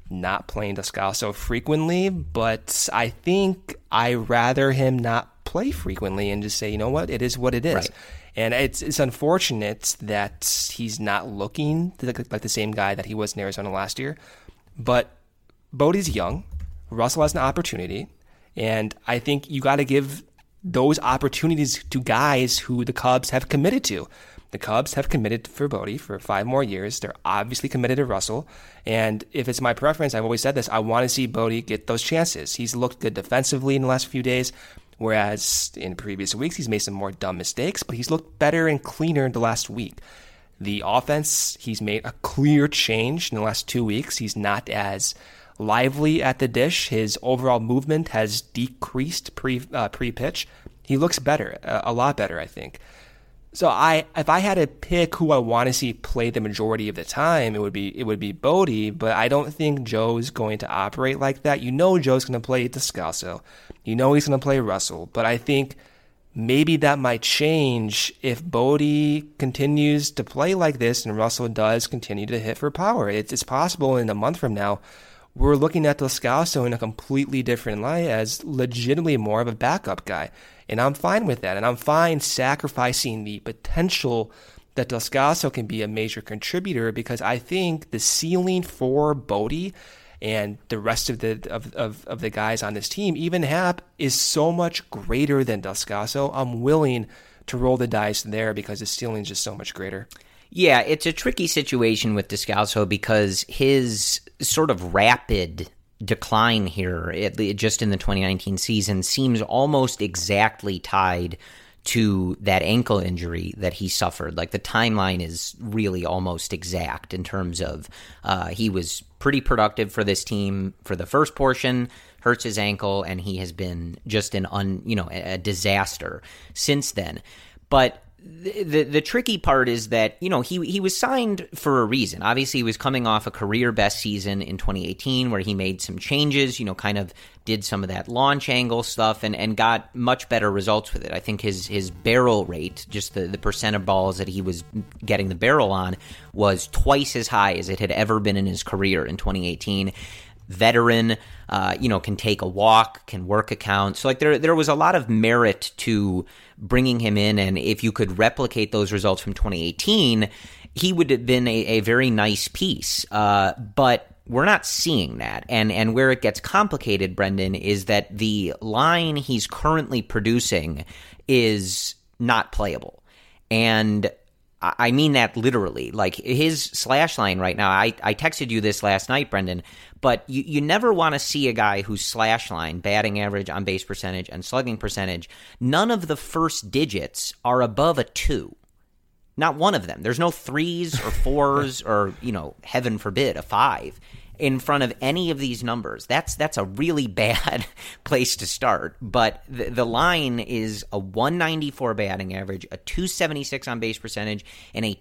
not playing Descalso frequently, but I think I rather him not play frequently and just say, you know what, it is what it is. Right. And it's unfortunate that he's not looking like the same guy that he was in Arizona last year. But Bodie's young. Russell has an opportunity. And I think you got to give those opportunities to guys who the Cubs have committed to. The Cubs have committed for Bodie for 5 more years. They're obviously committed to Russell. And if it's my preference, I've always said this, I want to see Bodie get those chances. He's looked good defensively in the last few days, whereas in previous weeks, he's made some more dumb mistakes, but he's looked better and cleaner the last week. The offense, he's made a clear change in the last 2 weeks. He's not as lively at the dish. His overall movement has decreased pre-pitch. He looks better, a lot better, I think. So if I had to pick who I want to see play the majority of the time, it would be Bodie, but I don't think Joe's going to operate like that. You know Joe's going to play Descalso. You know he's going to play Russell, but I think maybe that might change if Bodie continues to play like this and Russell does continue to hit for power. It's possible in a month from now we're looking at Descalso in a completely different light as legitimately more of a backup guy. And I'm fine with that. And I'm fine sacrificing the potential that Descalso can be a major contributor, because I think the ceiling for Bodie and the rest of the guys on this team, even Happ, is so much greater than Descalso. I'm willing to roll the dice there because the ceiling is just so much greater. Yeah, it's a tricky situation with Descalso because his sort of rapid decline here, just in the 2019 season, seems almost exactly tied to that ankle injury that he suffered. Like, the timeline is really almost exact in terms of he was pretty productive for this team for the first portion, hurts his ankle, and he has been just a disaster since then. But the tricky part is that, he was signed for a reason. Obviously, he was coming off a career best season in 2018 where he made some changes, kind of did some of that launch angle stuff and got much better results with it. I think his barrel rate, just the percent of balls that he was getting the barrel on, was twice as high as it had ever been in his career in 2018. Veteran, can take a walk, can work a count. So there was a lot of merit to bringing him in, and if you could replicate those results from 2018, he would have been a very nice piece. But we're not seeing that. And where it gets complicated, Brendan, is that the line he's currently producing is not playable. And I mean that literally. Like, his slash line right now, I texted you this last night, Brendan, but you never want to see a guy whose slash line, batting average, on base percentage, and slugging percentage, none of the first digits are above a 2. Not one of them. There's no 3s or 4s or, heaven forbid, a 5 in front of any of these numbers. That's a really bad place to start. But the line is a 194 batting average, a 276 on base percentage, and a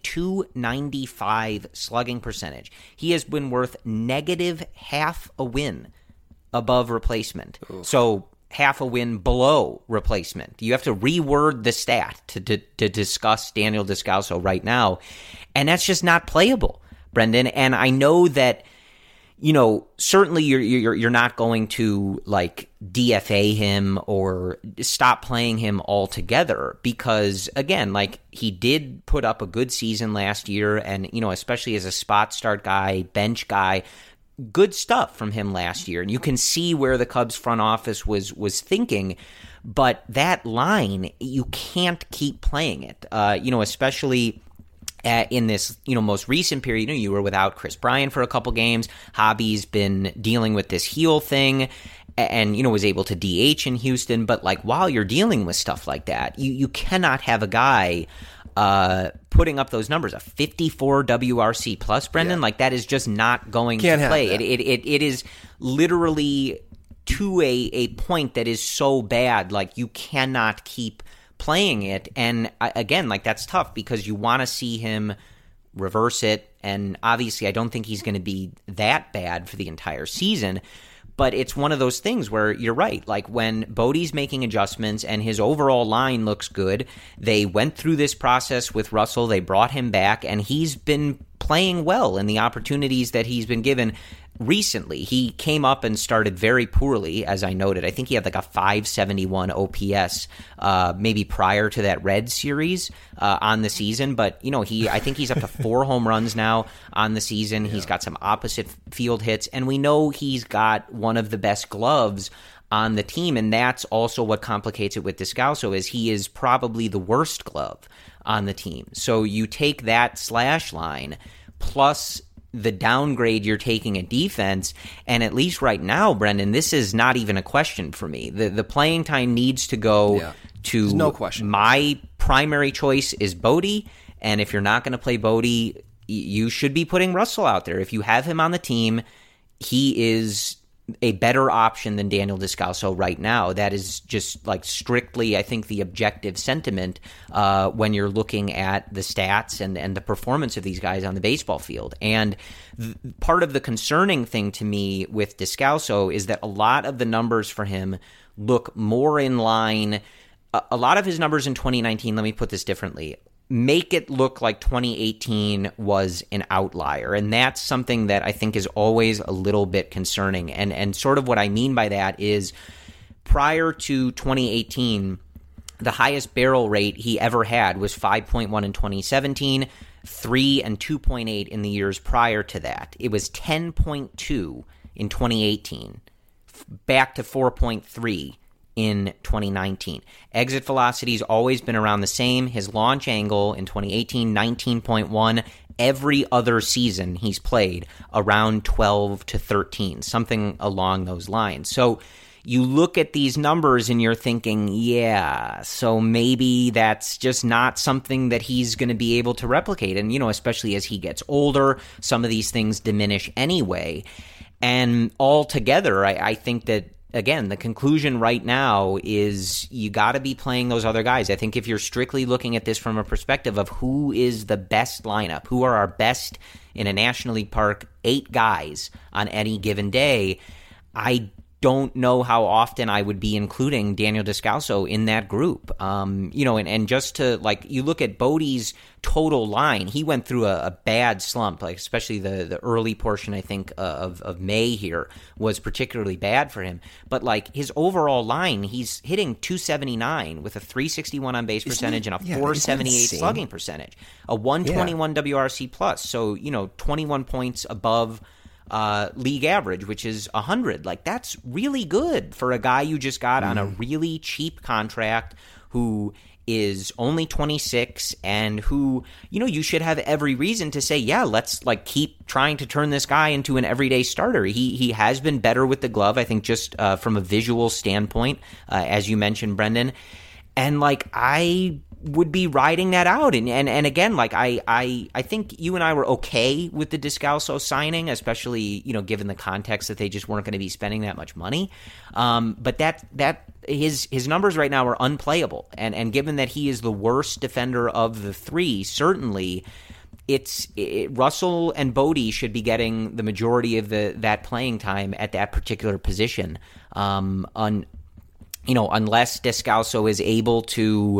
295 slugging percentage. He has been worth negative half a win above replacement. Ooh. So half a win below replacement. You have to reword the stat to discuss Daniel Descalso right now. And that's just not playable, Brendan. And I know that, certainly you're not going to DFA him or stop playing him altogether because, again, he did put up a good season last year, and especially as a spot start guy, bench guy, good stuff from him last year, and you can see where the Cubs front office was thinking. But that line, you can't keep playing it, especially in this, most recent period. You were without Chris Bryant for a couple games. Hobby's been dealing with this heel thing and, was able to DH in Houston. But, while you're dealing with stuff like that, you cannot have a guy putting up those numbers, a 54 WRC plus, Brendan. Yeah. That is just not going to play. It is literally to a point that is so bad, you cannot keep playing it. And again, that's tough because you want to see him reverse it. And obviously, I don't think he's going to be that bad for the entire season. But it's one of those things where you're right. When Bodie's making adjustments and his overall line looks good, they went through this process with Russell. They brought him back, and he's been playing well in the opportunities that he's been given. recently. He came up and started very poorly, as I noted. I think he had like a 571 OPS maybe prior to that Reds series on the season. But, I think he's up to 4 home runs now on the season. Yeah. He's got some opposite field hits, and we know he's got one of the best gloves on the team, and that's also what complicates it with Descalso, is he is probably the worst glove on the team. So you take that slash line plus the downgrade you're taking at defense, and at least right now, Brendan, this is not even a question for me. The playing time needs to go to There's no question. My primary choice is Bodie, and if you're not going to play Bodie, you should be putting Russell out there. If you have him on the team, he is a better option than Daniel Descalso right now. That is just like strictly, I think, the objective sentiment when you're looking at the stats and the performance of these guys on the baseball field. And part of the concerning thing to me with Descalso is that a lot of the numbers for him look more in line. A lot of his numbers in 2019, let me put this differently, make it look like 2018 was an outlier. And that's something that I think is always a little bit concerning. And sort of what I mean by that is prior to 2018, the highest barrel rate he ever had was 5.1 in 2017, 3 and 2.8 in the years prior to that. It was 10.2 in 2018, back to 4.3 in 2019. Exit velocity's always been around the same. His launch angle in 2018, 19.1. Every other season he's played around 12 to 13, something along those lines. So you look at these numbers and you're thinking, yeah, so maybe that's just not something that he's going to be able to replicate. And, especially as he gets older, some of these things diminish anyway. And altogether, I think that, again, the conclusion right now is you got to be playing those other guys. I think if you're strictly looking at this from a perspective of who is the best lineup, who are our best in a National League park, 8 guys on any given day, I don't know how often I would be including Daniel Descalso in that group. And just to, you look at Bodie's total line, he went through a bad slump, especially the early portion, I think, of May here was particularly bad for him. But, his overall line, he's hitting 279 with a 361 on base percentage and a 478 slugging percentage, a 121 WRC plus. So, 21 points above league average, which is 100. That's really good for a guy you just got on a really cheap contract who is only 26 and who, you should have every reason to say, yeah, let's keep trying to turn this guy into an everyday starter. He has been better with the glove, I think, just from a visual standpoint, as you mentioned, Brendan. And I would be riding that out. And again, I think you and I were okay with the Descalso signing, especially, given the context that they just weren't going to be spending that much money. But that his numbers right now are unplayable. And given that he is the worst defender of the 3, certainly Russell and Bodie should be getting the majority of that playing time at that particular position. Unless Descalso is able to,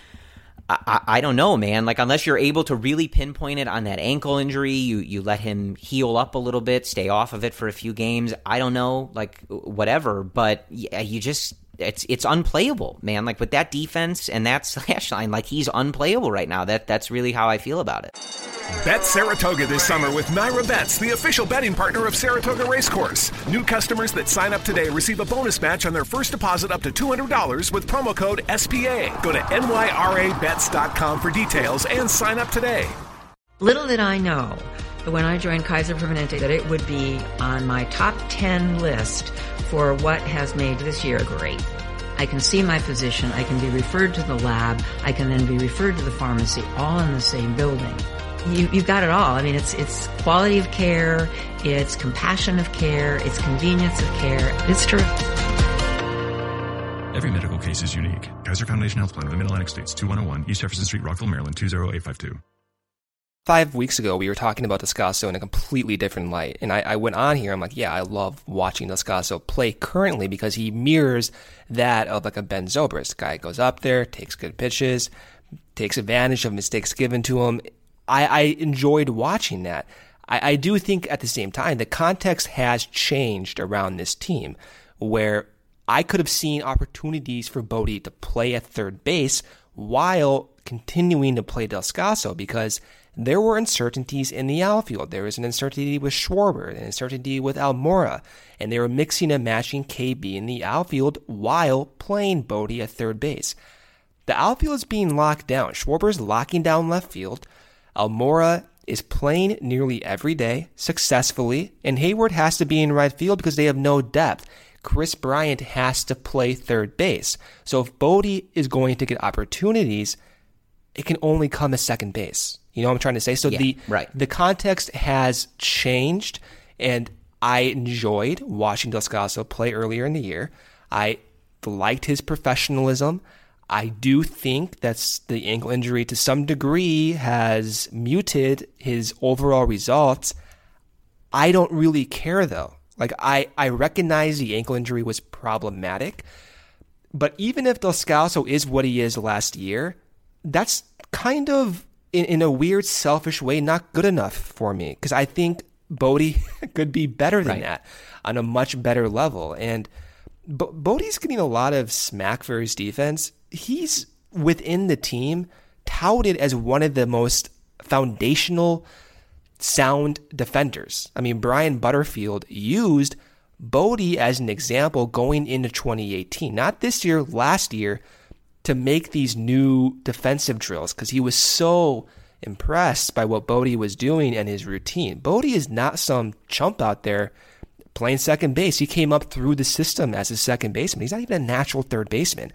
I don't know, man. Unless you're able to really pinpoint it on that ankle injury, you let him heal up a little bit, stay off of it for a few games. I don't know, whatever. But yeah, it's unplayable, man. With that defense and that slash line, he's unplayable right now. That's really how I feel about it. Bet Saratoga this summer with Naira Bets, the official betting partner of Saratoga Racecourse. New customers that sign up today receive a bonus match on their first deposit up to $200 with promo code SPA. Go to nyrabets.com for details and sign up today. Little did I know that when I joined Kaiser Permanente that it would be on my top 10 list for what has made this year great. I can see my physician, I can be referred to the lab, I can then be referred to the pharmacy, all in the same building. You've got it all. I mean, it's quality of care, it's compassion of care, it's convenience of care. It's terrific. Every medical case is unique. Kaiser Foundation Health Plan of the Mid-Atlantic States, 2101 East Jefferson Street, Rockville, Maryland, 20852. 5 weeks ago, we were talking about Descalso in a completely different light. And I went on here, I'm like, yeah, I love watching Descalso play currently because he mirrors that of a Ben Zobrist. Guy goes up there, takes good pitches, takes advantage of mistakes given to him. I enjoyed watching that. I do think at the same time, the context has changed around this team where I could have seen opportunities for Bodie to play at third base while continuing to play Descalso because there were uncertainties in the outfield. There was an uncertainty with Schwarber, an uncertainty with Almora, and they were mixing and matching KB in the outfield while playing Bodie at third base. The outfield is being locked down. Schwarber's locking down left field. Almora is playing nearly every day successfully, and Hayward has to be in right field because they have no depth. Chris Bryant has to play third base. So if Bodie is going to get opportunities, it can only come as second base. You know what I'm trying to say? So the context has changed, and I enjoyed watching Descalso play earlier in the year. I liked his professionalism. I do think that the ankle injury to some degree has muted his overall results. I don't really care, though. Like, I recognize the ankle injury was problematic, but even if Descalso is what he is last year, that's kind of, in a weird, selfish way, not good enough for me, because I think Bodie could be better than that on a much better level. And Bodie's getting a lot of smack for his defense. He's, within the team, touted as one of the most foundational sound defenders. I mean, Brian Butterfield used Bodie as an example going into 2018, not this year, last year, to make these new defensive drills because he was so impressed by what Bodie was doing and his routine. Bodie is not some chump out there playing second base. He came up through the system as a second baseman. He's not even a natural third baseman.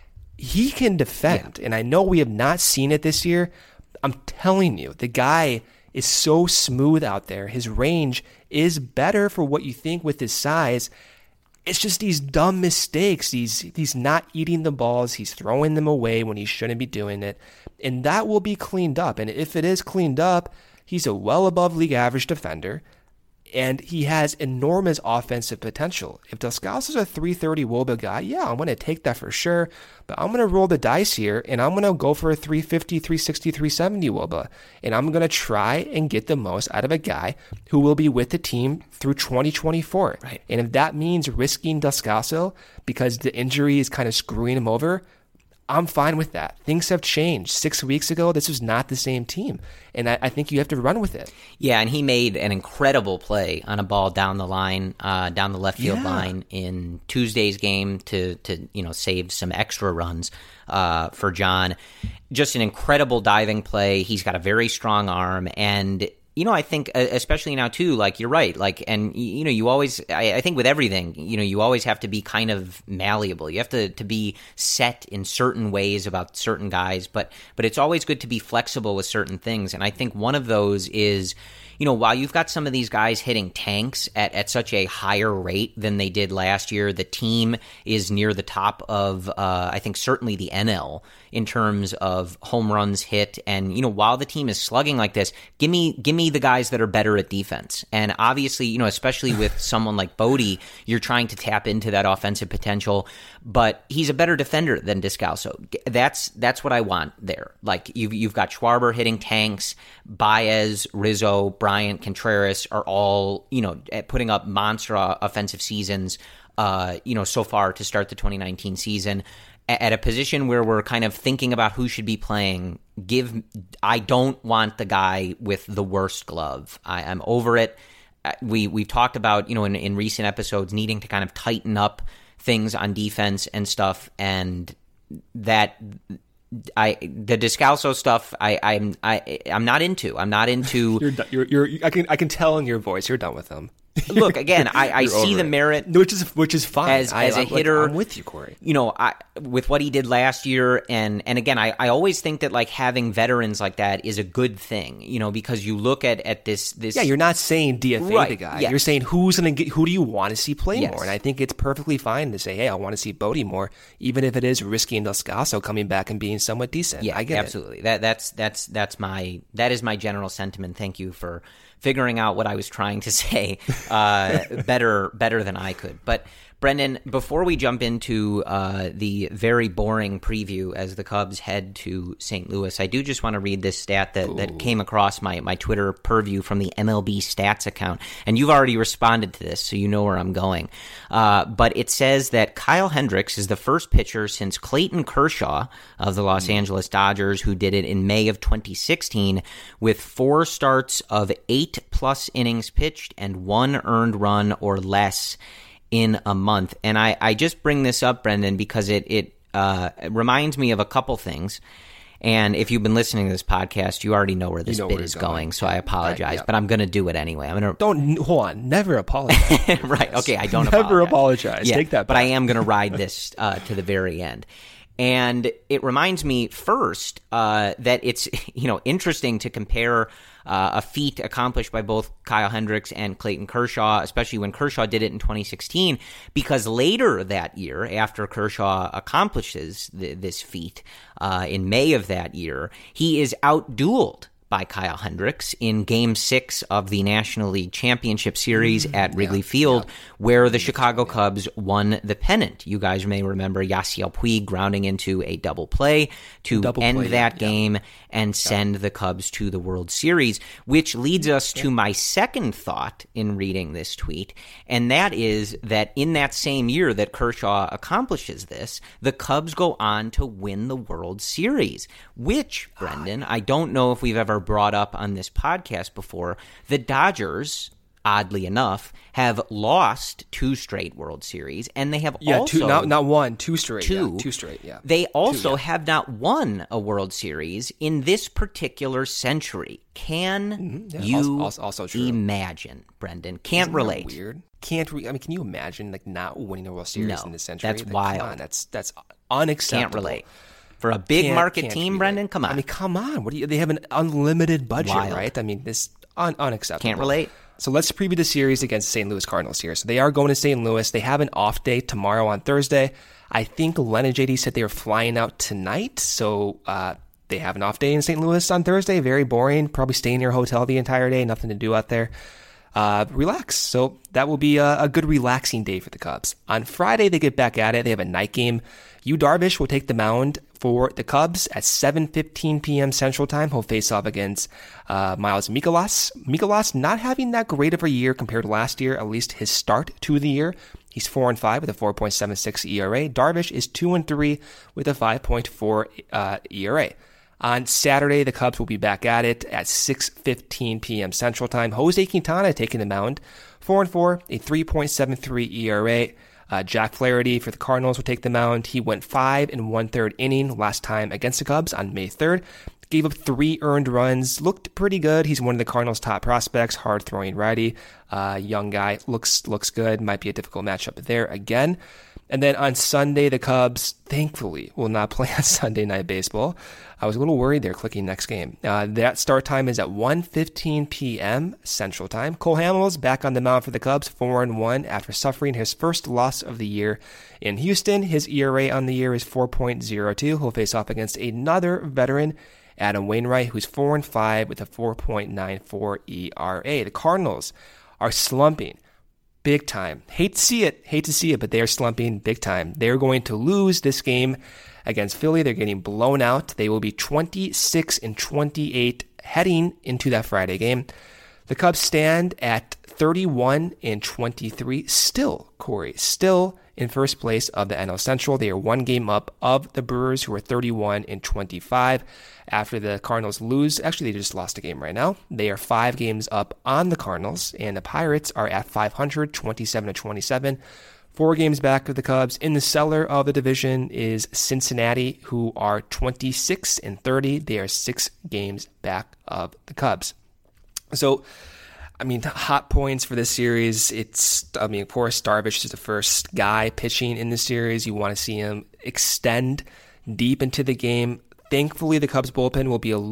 He can defend, and I know we have not seen it this year. I'm telling you, the guy is so smooth out there. His range is better for what you think with his size. It's just these dumb mistakes. He's not eating the balls. He's throwing them away when he shouldn't be doing it. And that will be cleaned up. And if it is cleaned up, he's a well above league average defender. And he has enormous offensive potential. If Descalso's a 330 WOBA guy, yeah, I'm going to take that for sure. But I'm going to roll the dice here, and I'm going to go for a 350, 360, 370 WOBA. And I'm going to try and get the most out of a guy who will be with the team through 2024. Right. And if that means risking Descalso because the injury is kind of screwing him over, I'm fine with that. Things have changed. 6 weeks ago, this was not the same team. And I think you have to run with it. Yeah, and he made an incredible play on a ball down the line, down the left field line in Tuesday's game to save some extra runs for John. Just an incredible diving play. He's got a very strong arm, and I think especially now too, like you're right, like, and you always, I think with everything, you always have to be kind of malleable. You have to be set in certain ways about certain guys, but it's always good to be flexible with certain things. And I think one of those is, while you've got some of these guys hitting tanks at such a higher rate than they did last year, the team is near the top of, I think, certainly the NL in terms of home runs hit. And, while the team is slugging like this, give me the guys that are better at defense. And obviously, especially with someone like Bodie, you're trying to tap into that offensive potential, but he's a better defender than Descalso. That's what I want there. Like, you've got Schwarber hitting tanks, Baez, Rizzo, Bryant, Contreras are all, putting up monster offensive seasons, so far to start the 2019 season. At a position where we're kind of thinking about who should be playing, I don't want the guy with the worst glove. I'm over it. We've talked about, in recent episodes, needing to kind of tighten up things on defense and stuff, and that the Descalso stuff I'm not into. I'm not into. I can tell in your voice you're done with them. Look, again, I see the merit, which is fine. As a hitter, I'm with you, Corey. With what he did last year, and again, I always think that like having veterans like that is a good thing, because you look at this. Yeah, you're not saying DFA the guy. Yes. You're saying who do you want to see play more? And I think it's perfectly fine to say, hey, I want to see Bodie more, even if it is risking Descalso coming back and being somewhat decent. Yeah, I get absolutely. It. That is my general sentiment. Thank you for figuring out what I was trying to say better than I could. But Brendan, before we jump into the very boring preview as the Cubs head to St. Louis, I do just want to read this stat that came across my Twitter purview from the MLB Stats account. And you've already responded to this, so you know where I'm going. But it says that Kyle Hendricks is the first pitcher since Clayton Kershaw of the Los Angeles Dodgers, who did it in May of 2016, with 4 starts of 8+ innings pitched and 1 earned run or less in a month. And I just bring this up, Brendan, because it reminds me of a couple things. And if you've been listening to this podcast, you already know where this bit is going, so I apologize. But I'm going to do it anyway. Don't hold on. Never apologize. Right. Okay. I don't never apologize. Yeah, Take that back. But I am going to ride this to the very end. And it reminds me first that it's interesting to compare a feat accomplished by both Kyle Hendricks and Clayton Kershaw, especially when Kershaw did it in 2016, because later that year, after Kershaw accomplishes this feat in May of that year, he is outdueled by Kyle Hendricks in Game 6 of the National League Championship Series at Wrigley Field, where the Chicago Cubs won the pennant. You guys may remember Yasiel Puig grounding into a double play to end that game and send the Cubs to the World Series, which leads us to my second thought in reading this tweet, and that is that in that same year that Kershaw accomplishes this, the Cubs go on to win the World Series, which, Brendan, I don't know if we've ever brought up on this podcast before. The Dodgers, oddly enough, have lost 2 straight World Series, and they have also... not one, 2 straight. 2 straight, yeah. They also have not won a World Series in this particular century. Can you also imagine, Brendan? Can't relate. Weird. Can you imagine not winning a World Series in this century? That's wild. Come on, that's unacceptable. Can't relate. For a big market team, Brendan, come on. Come on. They have an unlimited budget, right? This unacceptable. Can't relate. So let's preview the series against St. Louis Cardinals here. So they are going to St. Louis. They have an off day tomorrow on Thursday. I think Len and JD said they were flying out tonight. So they have an off day in St. Louis on Thursday. Very boring. Probably stay in your hotel the entire day. Nothing to do out there. Relax. So that will be a good relaxing day for the Cubs. On Friday, they get back at it. They have a night game. Yu Darvish will take the mound for the Cubs at 7:15 p.m. Central Time. He'll face off against Miles Mikolas. Mikolas not having that great of a year compared to last year, at least his start to the year. He's 4-5 with a 4.76 ERA. Darvish is 2-3 with a 5.4 ERA. On Saturday, the Cubs will be back at it at 6:15 p.m. Central Time. Jose Quintana taking the mound, 4-4, a 3.73 ERA. Jack Flaherty for the Cardinals will take the mound. He went 5 1/3 inning last time against the Cubs on May 3rd. Gave up 3 earned runs. Looked pretty good. He's one of the Cardinals' top prospects. Hard-throwing righty. Young guy. Looks good. Might be a difficult matchup there again. And then on Sunday, the Cubs, thankfully, will not play on Sunday Night Baseball. I was a little worried there clicking next game. That start time is at 1:15 p.m. Central Time. Cole Hamels back on the mound for the Cubs, 4-1 after suffering his first loss of the year in Houston. His ERA on the year is 4.02. He'll face off against another veteran, Adam Wainwright, who's 4-5 with a 4.94 ERA. The Cardinals are slumping big time. Hate to see it, but they're slumping big time. They're going to lose this game against Philly. They're getting blown out. They will be 26-28 heading into that Friday game. The Cubs stand at 31-23. Still, Corey, in first place of the NL Central. They are 1 game up of the Brewers, who are 31-25. After the Cardinals lose, actually they just lost a game right now. They are 5 games up on the Cardinals, and the Pirates are at 500, 27-27. 4 games back of the Cubs. In the cellar of the division is Cincinnati, who are 26-30. They are 6 games back of the Cubs. So, hot points for this series. Of course, Darvish is the first guy pitching in the series. You want to see him extend deep into the game. Thankfully, the Cubs bullpen will be a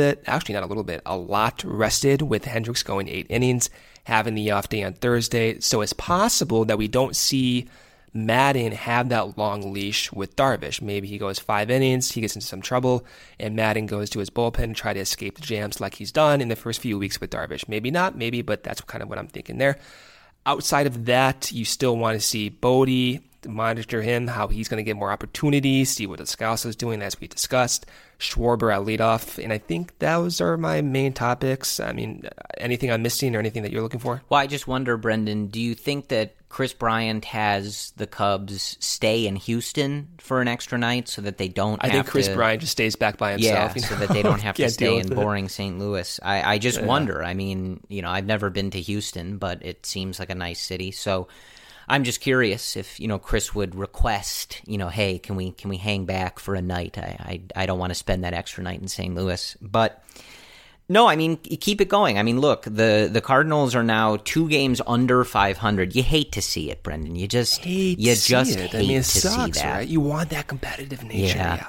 lot rested, with Hendricks going 8 innings, having the off day on Thursday. So it's possible that we don't see Madden have that long leash with Darvish. Maybe he goes 5 innings, he gets into some trouble, and Madden goes to his bullpen and try to escape the jams like he's done in the first few weeks with Darvish. Maybe not, but that's kind of what I'm thinking there. outside of that, you still want to see Bodie, monitor him, how he's going to get more opportunities, see what Descalso is doing, as we discussed. Schwarber at leadoff, and I think those are my main topics. I mean, anything I'm missing or anything that you're looking for? Well, I just wonder, Brendan, do you think that Chris Bryant has the Cubs stay in Houston for an extra night so that they don't I think Chris Bryant just stays back by himself. Yeah, so that they don't have to stay in boring St. Louis. I just wonder. I mean, I've never been to Houston, but it seems like a nice city. So I'm just curious if, Chris would request, hey, can we hang back for a night? I don't want to spend that extra night in St. Louis. But no, I mean, keep it going. I mean, look, the Cardinals are now 2 games under 500. You hate to see it, Brendan. You just hate to see that. Right? You want that competitive nature. Yeah.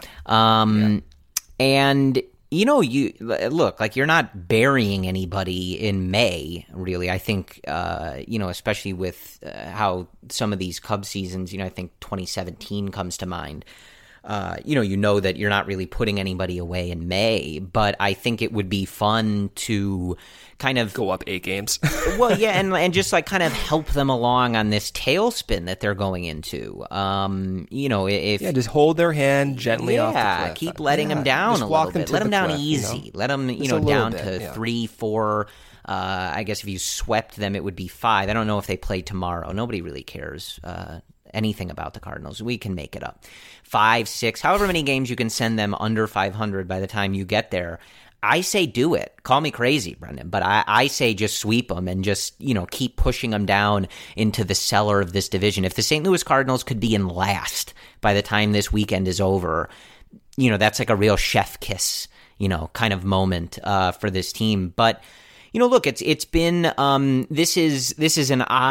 And you look, like, you're not burying anybody in May, really. I think, especially with how some of these Cubs seasons, I think 2017 comes to mind. That you're not really putting anybody away in May, but I think it would be fun to kind of go up 8 games. Well, yeah, and just like kind of help them along on this tailspin that they're going into. Just hold their hand gently off the cliff. Keep letting them down a little bit. Let them down easy. Let them, down to 3, 4. I guess if you swept them, it would be 5. I don't know if they play tomorrow. Nobody really cares anything about the Cardinals. We can make it up. 5, 6, however many games you can send them under 500 by the time you get there. I say do it. Call me crazy, Brendan, but I say just sweep them and just, keep pushing them down into the cellar of this division. If the St. Louis Cardinals could be in last by the time this weekend is over, that's like a real chef kiss, kind of moment for this team. But, look, it's been this is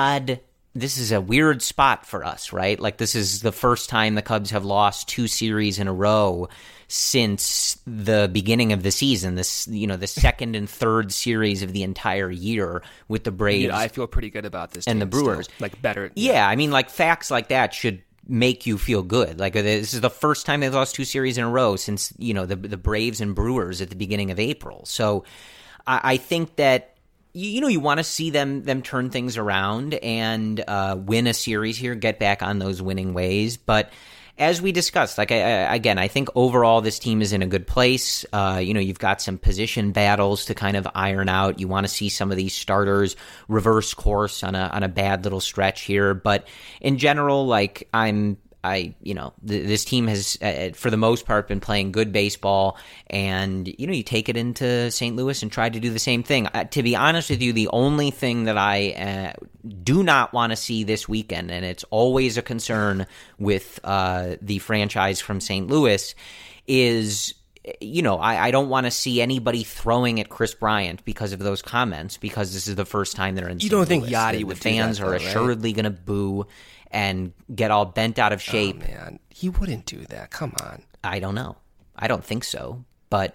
a weird spot for us, right? Like, this is the first time the Cubs have lost 2 series in a row since the beginning of the season. This, the second and third series of the entire year with the Braves. Yeah, I feel pretty good about this and the Brewers. Still. Like, better. Yeah, I mean, like, facts like that should make you feel good. Like, this is the first time they've lost 2 series in a row since, the Braves and Brewers at the beginning of April. So I think that you want to see them turn things around and win a series here, get back on those winning ways. But as we discussed, like, I think overall this team is in a good place. You've got some position battles to kind of iron out. You want to see some of these starters reverse course on a bad little stretch here. But in general, like, this team has, for the most part, been playing good baseball, and, you take it into St. Louis and try to do the same thing. To be honest with you, the only thing that I do not want to see this weekend, and it's always a concern with the franchise from St. Louis, is, I don't want to see anybody throwing at Chris Bryant because of those comments, because this is the first time they're in St. Louis. You don't think Yachty would do that, the fans are assuredly going to boo and get all bent out of shape. Oh, man. He wouldn't do that. Come on. I don't know. I don't think so. But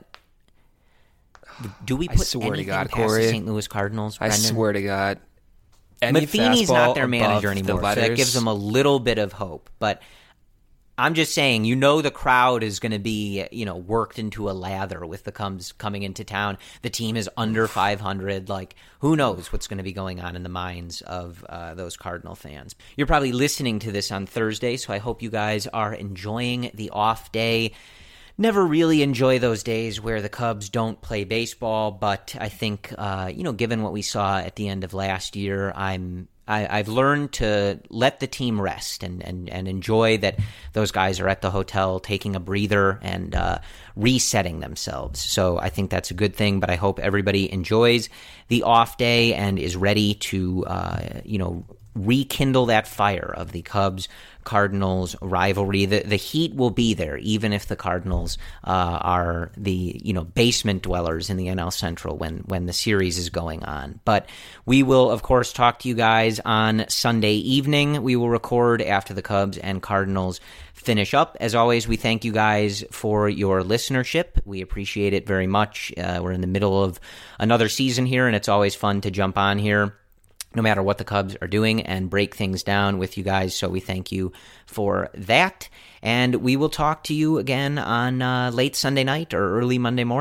do we put anything past the St. Louis Cardinals, Brendan? I swear to God. Matheny's not their manager anymore, so that gives them a little bit of hope. But I'm just saying, the crowd is going to be, worked into a lather with the Cubs coming into town. The team is under 500. Like, who knows what's going to be going on in the minds of those Cardinal fans. You're probably listening to this on Thursday, so I hope you guys are enjoying the off day. Never really enjoy those days where the Cubs don't play baseball, but I think, given what we saw at the end of last year, I've learned to let the team rest and enjoy that those guys are at the hotel taking a breather and resetting themselves. So I think that's a good thing, but I hope everybody enjoys the off day and is ready to, rekindle that fire of the Cubs-Cardinals rivalry. The heat will be there, even if the Cardinals are the basement dwellers in the NL Central when the series is going on. But we will, of course, talk to you guys on Sunday evening. We will record after the Cubs and Cardinals finish up. As always, we thank you guys for your listenership. We appreciate it very much. We're in the middle of another season here, and it's always fun to jump on here, no matter what the Cubs are doing, and break things down with you guys. So we thank you for that. And we will talk to you again on late Sunday night or early Monday morning.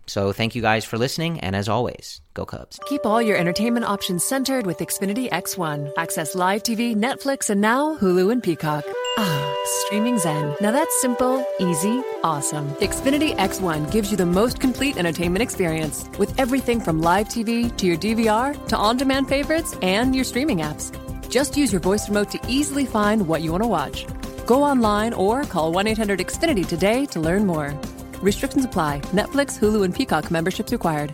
So thank you guys for listening, and as always, go Cubs. Keep all your entertainment options centered with Xfinity X1. Access live TV, Netflix, and now Hulu and Peacock. Streaming Zen. Now that's simple, easy, awesome. Xfinity X1 gives you the most complete entertainment experience with everything from live TV to your DVR to on-demand favorites and your streaming apps. Just use your voice remote to easily find what you want to watch. Go online or call 1-800-XFINITY today to learn more. Restrictions apply. Netflix, Hulu, and Peacock memberships required.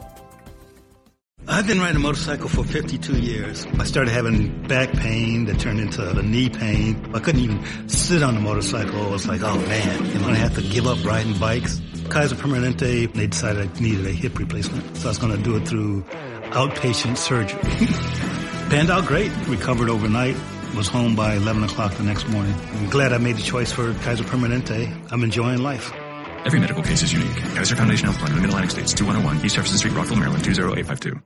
I've been riding a motorcycle for 52 years. I started having back pain that turned into the knee pain. I couldn't even sit on the motorcycle. I was like, oh man, am I going to have to give up riding bikes? Kaiser Permanente, they decided I needed a hip replacement. So I was going to do it through outpatient surgery. Panned out great. Recovered overnight. Was home by 11 o'clock the next morning. I'm glad I made the choice for Kaiser Permanente. I'm enjoying life. Every medical case is unique. Kaiser Foundation Health Plan of the Mid-Atlantic States, 2101 East Jefferson Street, Rockville, Maryland, 20852.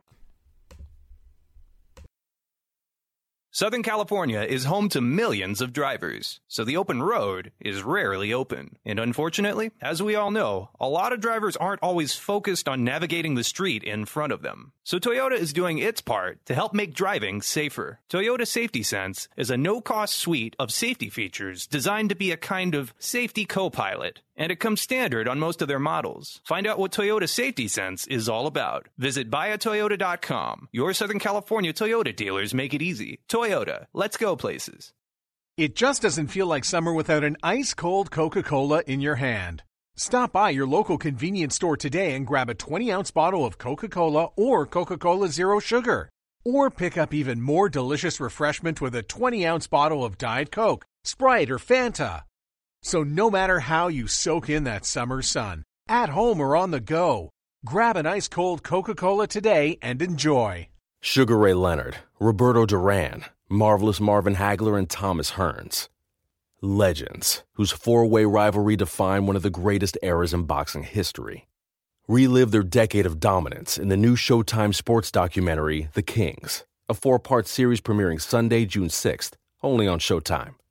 Southern California is home to millions of drivers, so the open road is rarely open. And unfortunately, as we all know, a lot of drivers aren't always focused on navigating the street in front of them. So Toyota is doing its part to help make driving safer. Toyota Safety Sense is a no-cost suite of safety features designed to be a kind of safety co-pilot, and it comes standard on most of their models. Find out what Toyota Safety Sense is all about. Visit buyatoyota.com. Your Southern California Toyota dealers make it easy. Toyota, let's go places. It just doesn't feel like summer without an ice-cold Coca-Cola in your hand. Stop by your local convenience store today and grab a 20-ounce bottle of Coca-Cola or Coca-Cola Zero Sugar. Or pick up even more delicious refreshment with a 20-ounce bottle of Diet Coke, Sprite, or Fanta. So no matter how you soak in that summer sun, at home or on the go, grab an ice-cold Coca-Cola today and enjoy. Sugar Ray Leonard, Roberto Duran, Marvelous Marvin Hagler, and Thomas Hearns. Legends, whose four-way rivalry defined one of the greatest eras in boxing history. Relive their decade of dominance in the new Showtime sports documentary, The Kings, a 4-part series premiering Sunday, June 6th, only on Showtime.